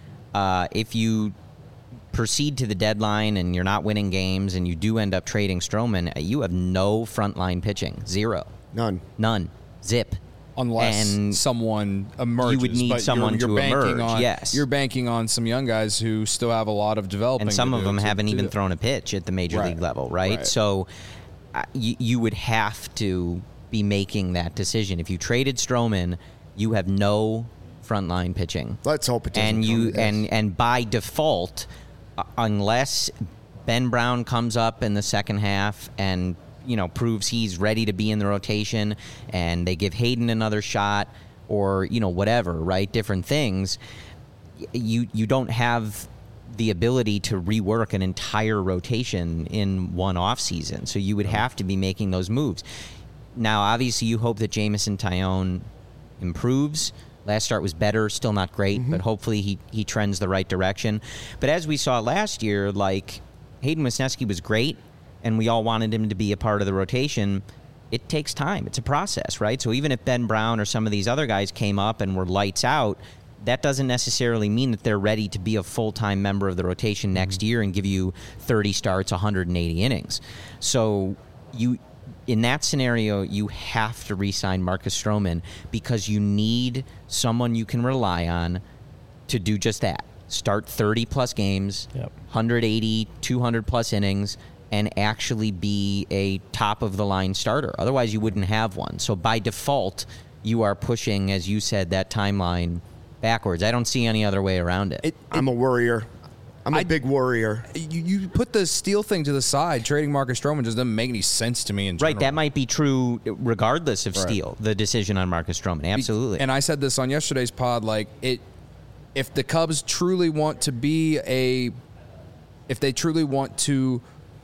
Uh, if you proceed to the deadline and you're not winning games and you do end up trading Stroman, you have no frontline pitching. Zero. None. None. Zip. Unless And someone emerges, you would need but someone you're, to you're banking emerge, On, yes. you're banking on some young guys who still have a lot of developing. And some to of do them to- haven't to even do. thrown a pitch at the major Right. league level, right? Right. So uh, you, you would have to be making that decision. If you traded Stroman, you have no frontline pitching. Let's hope it doesn't And come you to this. and and by default, uh, unless Ben Brown comes up in the second half and you know proves he's ready to be in the rotation, and they give Hayden another shot, or you know whatever, right? Different things. y- You you don't have the ability to rework an entire rotation in one off season, so you would have to be making those moves. Now, obviously, you hope that Jamison Tyone improves. Last start was better, still not great, but hopefully he, he trends the right direction. But as we saw last year, like Hayden Wesneski was great, and we all wanted him to be a part of the rotation. It takes time. It's a process, right? So even if Ben Brown or some of these other guys came up and were lights out, that doesn't necessarily mean that they're ready to be a full-time member of the rotation next year and give you thirty starts, one hundred eighty innings. So you, in that scenario, you have to re-sign Marcus Stroman because you need someone you can rely on to do just that. Start thirty-plus games, Yep. one hundred eighty, two hundred plus innings, and actually be a top-of-the-line starter. Otherwise, you wouldn't have one. So by default, you are pushing, as you said, that timeline backwards. I don't see any other way around it. It, I'm a worrier. I'm a I- big worrier. you, you put the Steele thing to the side. Trading Marcus Stroman just doesn't make any sense to me in general. Right, that might be true regardless of Right. Steele, the decision on Marcus Stroman. Absolutely. And I said this on yesterday's pod, like it if the Cubs truly want to be a if they truly want to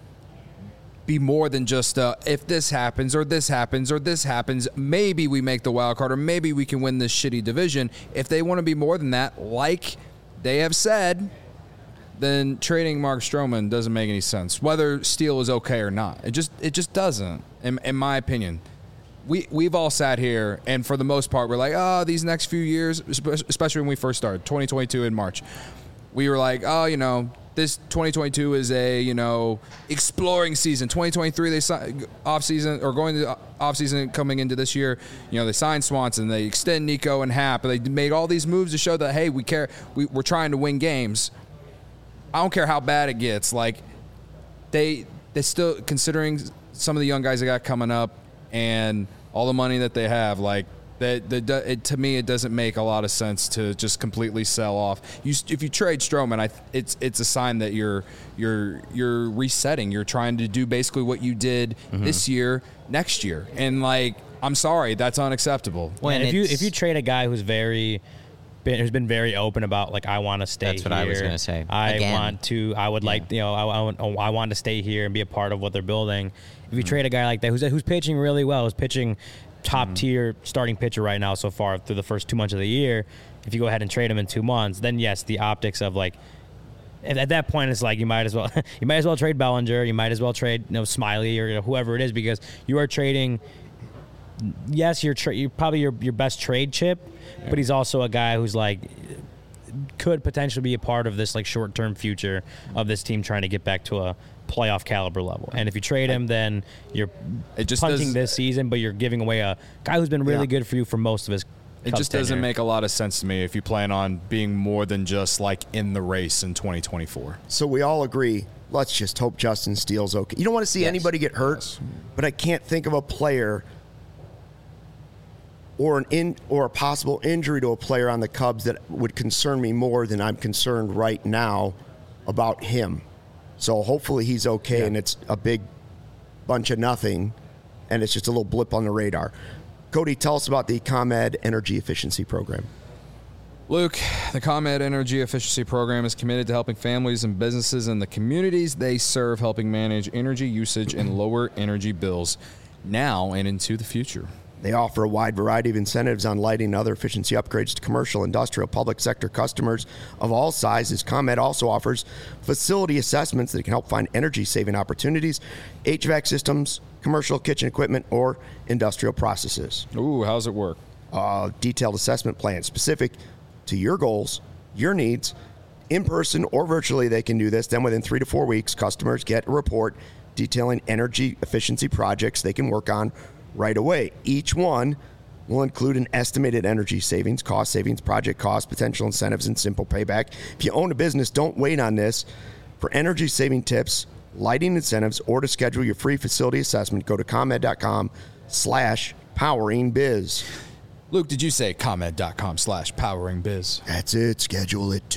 be more than just uh, if this happens or this happens or this happens, maybe we make the wild card or maybe we can win this shitty division. If they want to be more than that, like they have said, then trading Mark Stroman doesn't make any sense. Whether Steele is okay or not, it just it just doesn't, in, in my opinion. We we've all sat here, and for the most part, we're like, oh, these next few years, espe- especially when we first started, twenty twenty-two in March, we were like, oh, you know, this twenty twenty-two is a you know exploring season. twenty twenty-three they si- off season or going to off season coming into this year, you know, they signed Swanson, they extend Nico and Happ, and they made all these moves to show that hey, we care, we, we're trying to win games. I don't care how bad it gets. Like they they still considering some of the young guys they got coming up and all the money that they have. Like That the it, to me, it doesn't make a lot of sense to just completely sell off. You if you trade Stroman, I it's it's a sign that you're you're you're resetting. You're trying to do basically what you did mm-hmm. this year, next year, and like I'm sorry, that's unacceptable. Well, and if you if you trade a guy who's very been, who's been very open about like I want to stay. That's what here. I was going to say. I Again. want to. I would yeah. like you know I, I, want, I want to stay here and be a part of what they're building. If you mm-hmm. trade a guy like that who's who's pitching really well, who's pitching. Top mm-hmm. tier starting pitcher right now so far through the first two months of the year. If you go ahead and trade him in two months, then yes, the optics of like at, at that point it's like you might as well you might as well trade Bellinger, you might as well trade you know Smiley or you know, whoever it is because you are trading. Yes, you're tra- you're probably your your best trade chip, yeah. but he's also a guy who's like could potentially be a part of this like short term future of this team trying to get back to a playoff caliber level. And if you trade him, then you're it just punting does, this season, but you're giving away a guy who's been really yeah. good for you for most of his It just doesn't tenure. make a lot of sense to me if you plan on being more than just like in the race in twenty twenty-four. So we all agree, let's just hope Justin Steele's okay. You don't want to see yes. anybody get hurt, yes. but I can't think of a player or an in or a possible injury to a player on the Cubs that would concern me more than I'm concerned right now about him. So hopefully he's okay, yeah. and it's a big bunch of nothing, and it's just a little blip on the radar. Cody, tell us about the ComEd Energy Efficiency Program. Luke, the ComEd Energy Efficiency Program is committed to helping families and businesses in the communities they serve, helping manage energy usage and lower energy bills now and into the future. They offer a wide variety of incentives on lighting and other efficiency upgrades to commercial, industrial, public sector customers of all sizes. ComEd also offers facility assessments that can help find energy-saving opportunities, H V A C systems, commercial kitchen equipment, or industrial processes. Ooh, how's it work? Uh, detailed assessment plan specific to your goals, your needs. In person or virtually, they can do this. Then within three to four weeks, customers get a report detailing energy efficiency projects they can work on right away. Each one will include an estimated energy savings, cost savings, project cost, potential incentives, and simple payback. If you own a business, don't wait on this. For energy saving tips, lighting incentives, or to schedule your free facility assessment, go to ComEd.com slash powering biz. Luke, did you say ComEd.com slash powering biz? That's it. Schedule it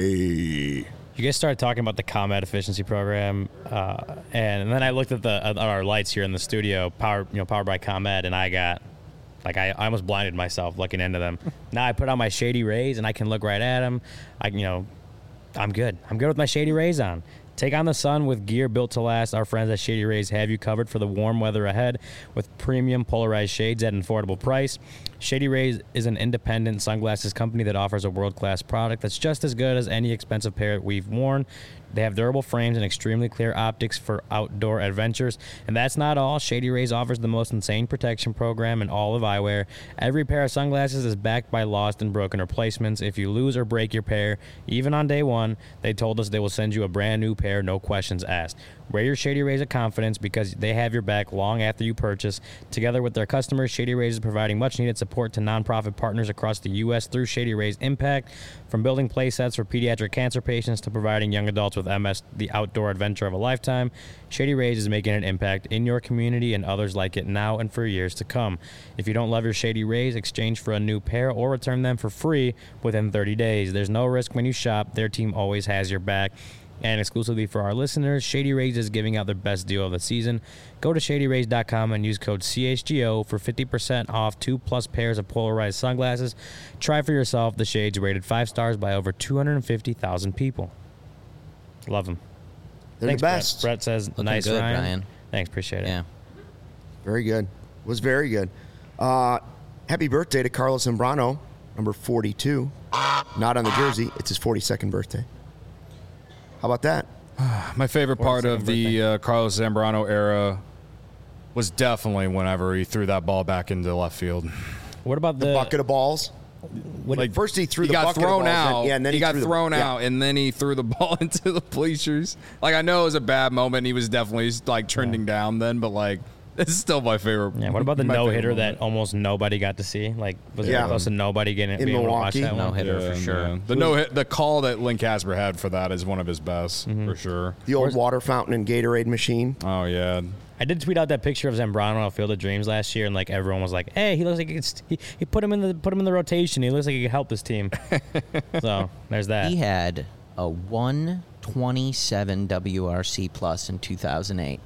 today. You guys started talking about the ComEd efficiency program, uh, and, and then I looked at the at our lights here in the studio, powered you know powered by ComEd, and I got like I, I almost blinded myself looking into them. Now I put on my Shady Rays and I can look right at them. I you know I'm good. I'm good with my Shady Rays on. Take on the sun with gear built to last. Our friends at Shady Rays have you covered for the warm weather ahead with premium polarized shades at an affordable price. Shady Rays is an independent sunglasses company that offers a world-class product that's just as good as any expensive pair we've worn. They have durable frames and extremely clear optics for outdoor adventures. And that's not all. Shady Rays offers the most insane protection program in all of eyewear. Every pair of sunglasses is backed by lost and broken replacements. If you lose or break your pair, even on day one, they told us they will send you a brand new pair, no questions asked. Wear your Shady Rays of confidence because they have your back long after you purchase. Together with their customers, Shady Rays is providing much-needed support to nonprofit partners across the U S through Shady Rays Impact, from building play sets for pediatric cancer patients to providing young adults with M S the outdoor adventure of a lifetime. Shady Rays is making an impact in your community and others like it now and for years to come. If you don't love your Shady Rays, exchange for a new pair or return them for free within thirty days. There's no risk when you shop. Their team always has your back. And exclusively for our listeners, Shady Rays is giving out their best deal of the season. Go to shady rays dot com and use code C H G O for fifty percent off two plus pairs of polarized sunglasses. Try for yourself the shades rated five stars by over two hundred fifty thousand people. Love them. They're Thanks, the best. Brett. Brett says, Looking nice, good, Ryan. Ryan. Thanks, appreciate it. Yeah. Very good. Was very good. Uh, happy birthday to Carlos Zambrano, number forty-two. Not on the jersey. It's his forty-second birthday. How about that? My favorite part of the uh, Carlos Zambrano era was definitely whenever he threw that ball back into left field. What about the, the bucket of balls? Like first he threw he the got bucket thrown of balls, out. and, yeah, and then he, he got threw thrown the, out, yeah. and then he threw the ball into the bleachers. Like I know it was a bad moment. He was definitely like trending yeah. down then, but like It's still my favorite. Yeah. What about the my no favorite hitter that moment. almost nobody got to see? Like, was Yeah. it close to nobody getting In being able to watch Milwaukee? that No one? hitter Yeah, for sure. man. The no hit, the call that Lynn Casper had for that is one of his best Mm-hmm. for sure. The old water fountain and Gatorade machine. Oh yeah, I did tweet out that picture of Zambrano on Field of Dreams last year, and like everyone was like, "Hey, he looks like he, could, he he put him in the put him in the rotation. He looks like he could help this team." So there's that. He had a one twenty-seven W R C plus in two thousand eight.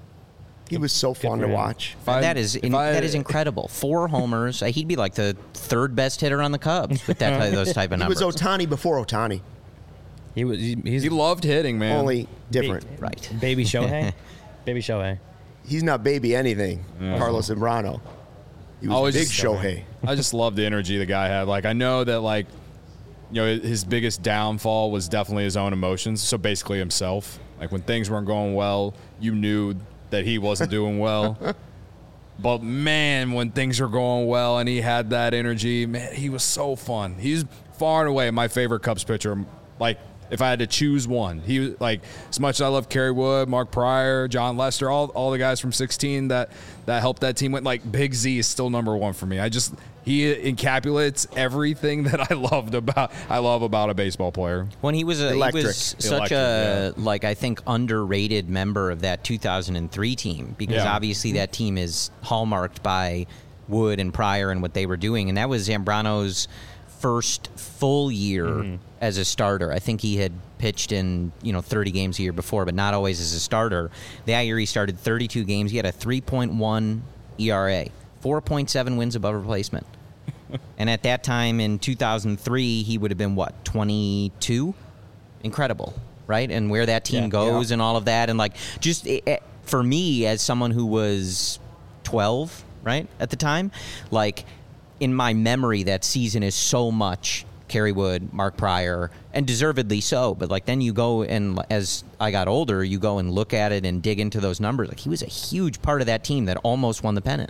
He was so fun for to him. watch. If I- that is if in, I- that is incredible. Four homers. Uh, He'd be like the third best hitter on the Cubs with that those type of He was numbers. Otani before Otani, He was he, he's He loved hitting, man. only different. Right. baby Shohei, baby Shohei. He's not baby anything, Carlos Zambrano. He was Always big just- Shohei. I just love the energy the guy had. Like I know that like you know his biggest downfall was definitely his own emotions. So basically himself. Like when things weren't going well, you knew that he wasn't doing well. But man, when things were going well and he had that energy, man, he was so fun. He's far and away my favorite Cubs pitcher. Like if I had to choose one, he was like as much as I love Kerry Wood, Mark Pryor, John Lester, all all the guys from sixteen that that helped that team win. Like Big Z is still number one for me. I just he encapsulates everything that I loved about I love about a baseball player. When he was a, he Electric. was such Electric, a like I think underrated member of that two thousand three team because Yeah. obviously that team is hallmarked by Wood and Pryor and what they were doing, and that was Zambrano's first full year Mm-hmm. as a starter. I think he had pitched in you know thirty games a year before, but not always as a starter. That year he started thirty-two games. He had a three point one E R A, four point seven wins above replacement. And at that time in two thousand three, he would have been what, twenty-two? Incredible, right? And where that team Yeah. goes and all of that, and like just it, it- for me as someone who was twelve, right at the time, like in my memory, that season is so much Kerry Wood, Mark Pryor, and deservedly so. But like then you go and as I got older, you go and look at it and dig into those numbers. Like he was a huge part of that team that almost won the pennant.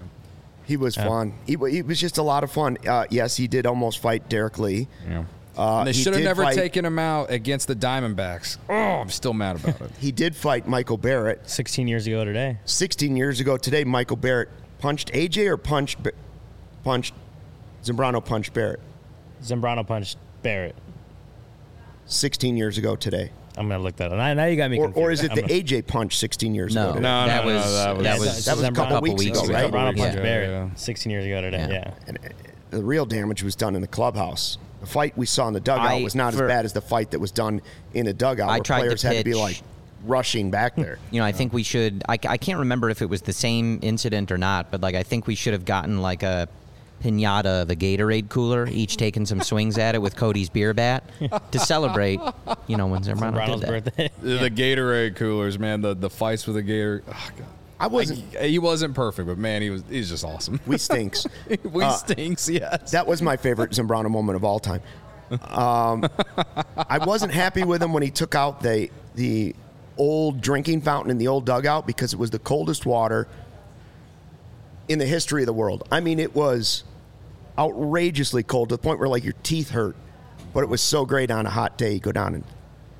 He was fun. He, wa- he was just a lot of fun. Uh, yes, he did almost fight Derek Lee. Yeah. Uh, And they he should have did never fight- taken him out against the Diamondbacks. Oh, I'm still mad about it. He did fight Michael Barrett. sixteen years ago today. sixteen years ago today, Michael Barrett punched A J or punched Ba- punched Zambrano punched Barrett. Zambrano punched Barrett. sixteen years ago today. I'm gonna look that up. Now, now you got me Or, confused. or is it I'm the gonna- A J punch sixteen years No, ago today? No, that, no, no, was, that was- that Yeah, was that was a Zambrano- couple weeks ago, right? Zambrano punched Yeah. Barrett Yeah. sixteen years ago today. Yeah. Yeah. And uh, the real damage was done in the clubhouse. The fight we saw in the dugout I- was not for- as bad as the fight that was done in the dugout, I where tried to players had to be pitch- like rushing back there. You know, I think we should. I, I can't remember if it was the same incident or not, but like I think we should have gotten like a pinata of a Gatorade cooler, each taking some swings at it with Cody's beer bat to celebrate. You know, when Zambrano Zambrano's did that. birthday. The Gatorade coolers, man. The the fights with the Gator. Oh, God. I wasn't. Like, he wasn't perfect, but man, he was. He's just awesome. We stinks. we Uh, stinks, yes. That was my favorite Zambrano moment of all time. Um, I wasn't happy with him when he took out the the old drinking fountain in the old dugout because it was the coldest water in the history of the world. I mean, it was outrageously cold to the point where like your teeth hurt. But it was so great on a hot day. You go down and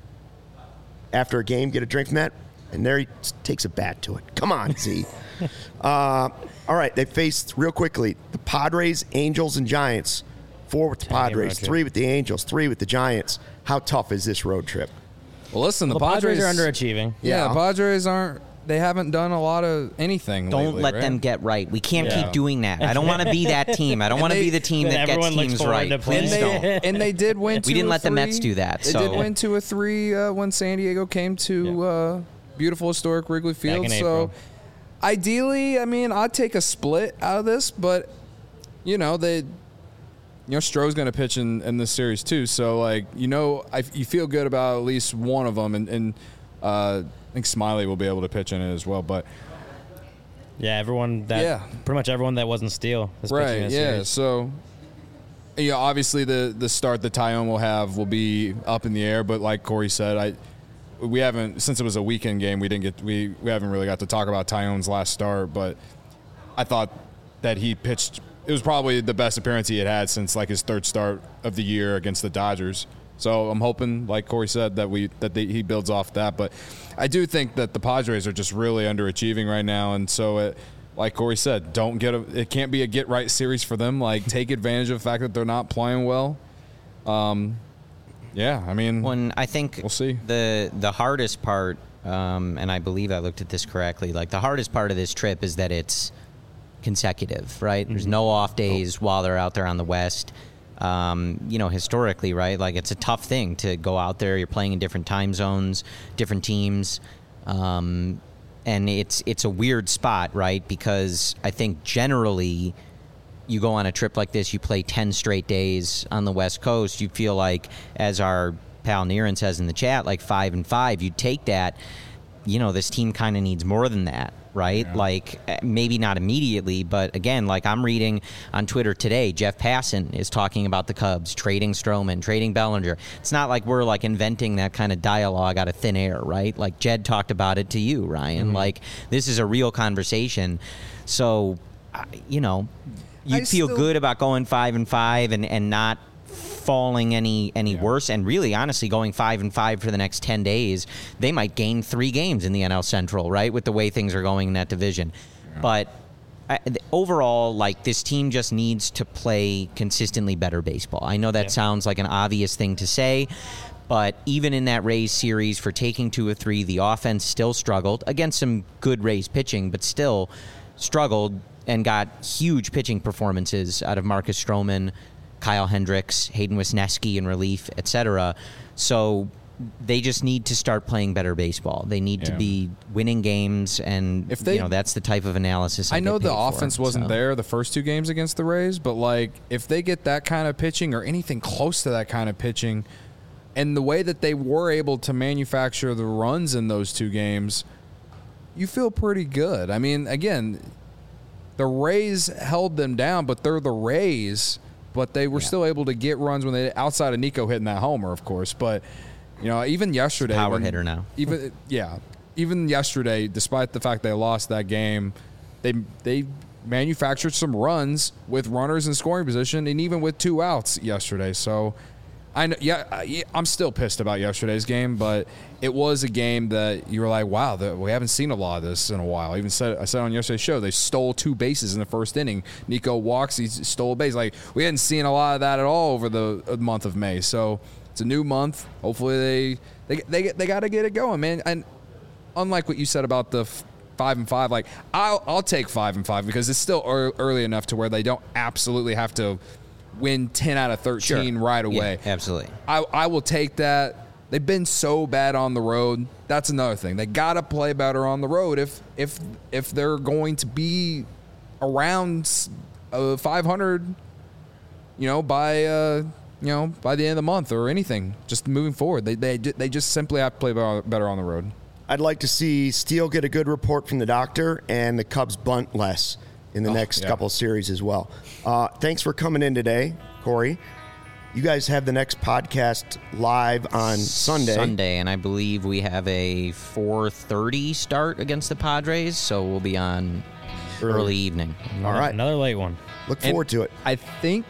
after a game, get a drink from that, and there he takes a bat to it. Come on, Z. uh, all right, they faced real quickly the Padres, Angels, and Giants. Four with the Ten-game road Padres, trip. three with the Angels, three with the Giants. How tough is this road trip? well, listen, the, The Padres are underachieving. Yeah, Yeah. the Padres aren't. They haven't done a lot of anything. Don't lately, let right? them get right. We can't Yeah. keep doing that. I don't want to be that team. I don't want to they- be the team Then that gets everyone looks teams forward right. to playing Please and don't. they, and they did win. Two We didn't or let the Mets three. do that, They so- did win two or three uh, when San Diego came to uh, beautiful historic Wrigley Field. in So, April. ideally, I mean, I'd take a split out of this, but you know they, you know, Stroh's going to pitch in, in this series too. So, like, you know, I, you feel good about at least one of them, and, and uh, I think Smiley will be able to pitch in it as well. But Yeah, everyone that Yeah. pretty much everyone that wasn't Steele is pitching right, this yeah. series. So, yeah, obviously the the start that Tyone will have will be up in the air. But like Corey said, I we haven't since it was a weekend game. We didn't get we we haven't really got to talk about Tyone's last start. But I thought that he pitched. It was probably the best appearance he had had since like his third start of the year against the Dodgers. So I'm hoping, like Corey said, that we that they, he builds off that. But I do think that the Padres are just really underachieving right now, and so it, like Corey said, don't get a. It can't be a get right series for them. Like take advantage of the fact that they're not playing well. Um, yeah, I mean, when I think we'll see. the the hardest part, um, and I believe I looked at this correctly. Like the hardest part of this trip is that it's consecutive, right? Mm-hmm. There's no off days oh. while they're out there on the West. Um, you know, historically, right? Like it's a tough thing to go out there. You're playing in different time zones, different teams, um, and it's it's a weird spot, right? Because I think generally, you go on a trip like this, you play ten straight days on the West Coast. You feel like, as our pal Niren says in the chat, like five and five. You take that. You know, this team kind of needs more than that, right? Yeah. Like, maybe not immediately, but again, like I'm reading on Twitter today, Jeff Passan is talking about the Cubs, trading Stroman, trading Bellinger. It's not like we're, like, inventing that kind of dialogue out of thin air, right? Like, Jed talked about it to you, Ryan. Mm-hmm. Like, this is a real conversation. So, you know, you'd I feel still... good about going five and five and, and not falling any any yeah. worse, and really honestly going five and five for the next ten days. They might gain three games in the N L Central, right, with the way things are going in that division. Yeah. But I, overall, like, this team just needs to play consistently better baseball. I know that yeah. sounds like an obvious thing to say, but even in that Rays series, for taking two or three, the offense still struggled against some good Rays pitching, but still struggled and got huge pitching performances out of Marcus Stroman, Kyle Hendricks, Hayden Wisniewski in relief, et cetera. So they just need to start playing better baseball. They need yeah. to be winning games, and if they, you know, that's the type of analysis I, I know the for, offense wasn't so. there the first two games against the Rays, but like if they get that kind of pitching or anything close to that kind of pitching, and the way that they were able to manufacture the runs in those two games, you feel pretty good. I mean, again, the Rays held them down, but they're the Rays. But they were yeah. still able to get runs when they, outside of Nico hitting that homer, of course. But, you know, even yesterday. Power when, hitter now. Even yeah, even yesterday, despite the fact they lost that game, they they manufactured some runs with runners in scoring position, and even with two outs yesterday. So, I know, yeah, I, I'm still pissed about yesterday's game, but it was a game that you were like, wow, the, we haven't seen a lot of this in a while. I even said I said on yesterday's show, they stole two bases in the first inning. Nico walks, he stole a base. Like, we hadn't seen a lot of that at all over the uh, month of May. So it's a new month. Hopefully they they they they got to get it going, man. And unlike what you said about the f- five and five, like I'll I'll take five and five because it's still er- early enough to where they don't absolutely have to win ten out of thirteen sure. right away. Yeah, absolutely. I, I will take that. They've been so bad on the road. That's another thing. They got to play better on the road if if if they're going to be around uh, five hundred, you know, by uh, you know by the end of the month or anything. Just moving forward, they they they just simply have to play better on the road. I'd like to see Steele get a good report from the doctor and the Cubs bunt less in the oh, next yeah. couple of series as well. Uh, thanks for coming in today, Corey. You guys have the next podcast live on Sunday. Sunday, and I believe we have a four thirty start against the Padres, so we'll be on early, early evening. All right. Another late one. Look forward and to it. I think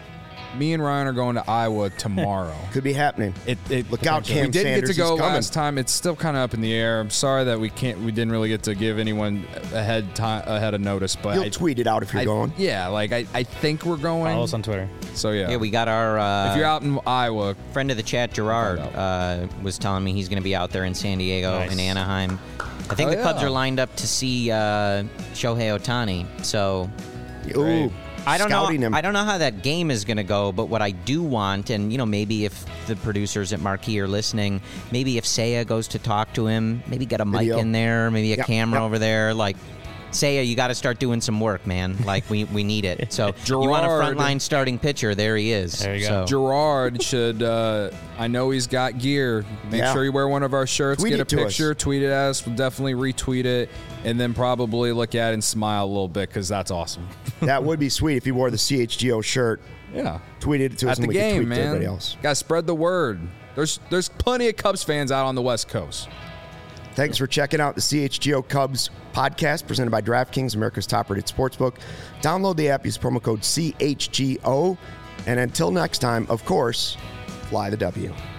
me and Ryan are going to Iowa tomorrow. Could be happening. It, it, Look out, Cam We didn't Sanders, get to go he's coming. last time. It's still kind of up in the air. I'm sorry that we can't. We didn't really get to give anyone ahead time ahead of notice. But you'll I, tweet it out if you're I, going. Yeah, like I, I think we're going. Follow us on Twitter. So yeah, yeah, we got our. Uh, if you're out in Iowa, friend of the chat, Gerard, uh, was telling me he's going to be out there in San Diego, nice. in Anaheim. I think oh, the yeah. Cubs are lined up to see uh, Shohei Ohtani. So. Ooh. I don't know. Him. I don't know how that game is going to go, but what I do want, and you know, maybe if the producers at Marquee are listening, maybe if Seiya goes to talk to him, maybe get a mic Video. in there, maybe a yep, camera yep. over there, like. Seiya, you got to start doing some work, man. Like, we, we need it. So, Gerard, you want a frontline starting pitcher, there he is. There you go. So. Gerard should, uh, I know he's got gear. Make yeah. sure you wear one of our shirts, Tweet get a it to picture, us. tweet it at us. We'll definitely retweet it, and then probably look at it and smile a little bit because that's awesome. That would be sweet if you wore the C H G O shirt. Yeah. Tweeted it to us At and the we could game, tweet man. to everybody else. Got to spread the word. There's, there's plenty of Cubs fans out on the West Coast. Thanks for checking out the C H G O Cubs podcast presented by DraftKings, America's top-rated sportsbook. Download the app, use promo code C H G O. And until next time, of course, Fly the W.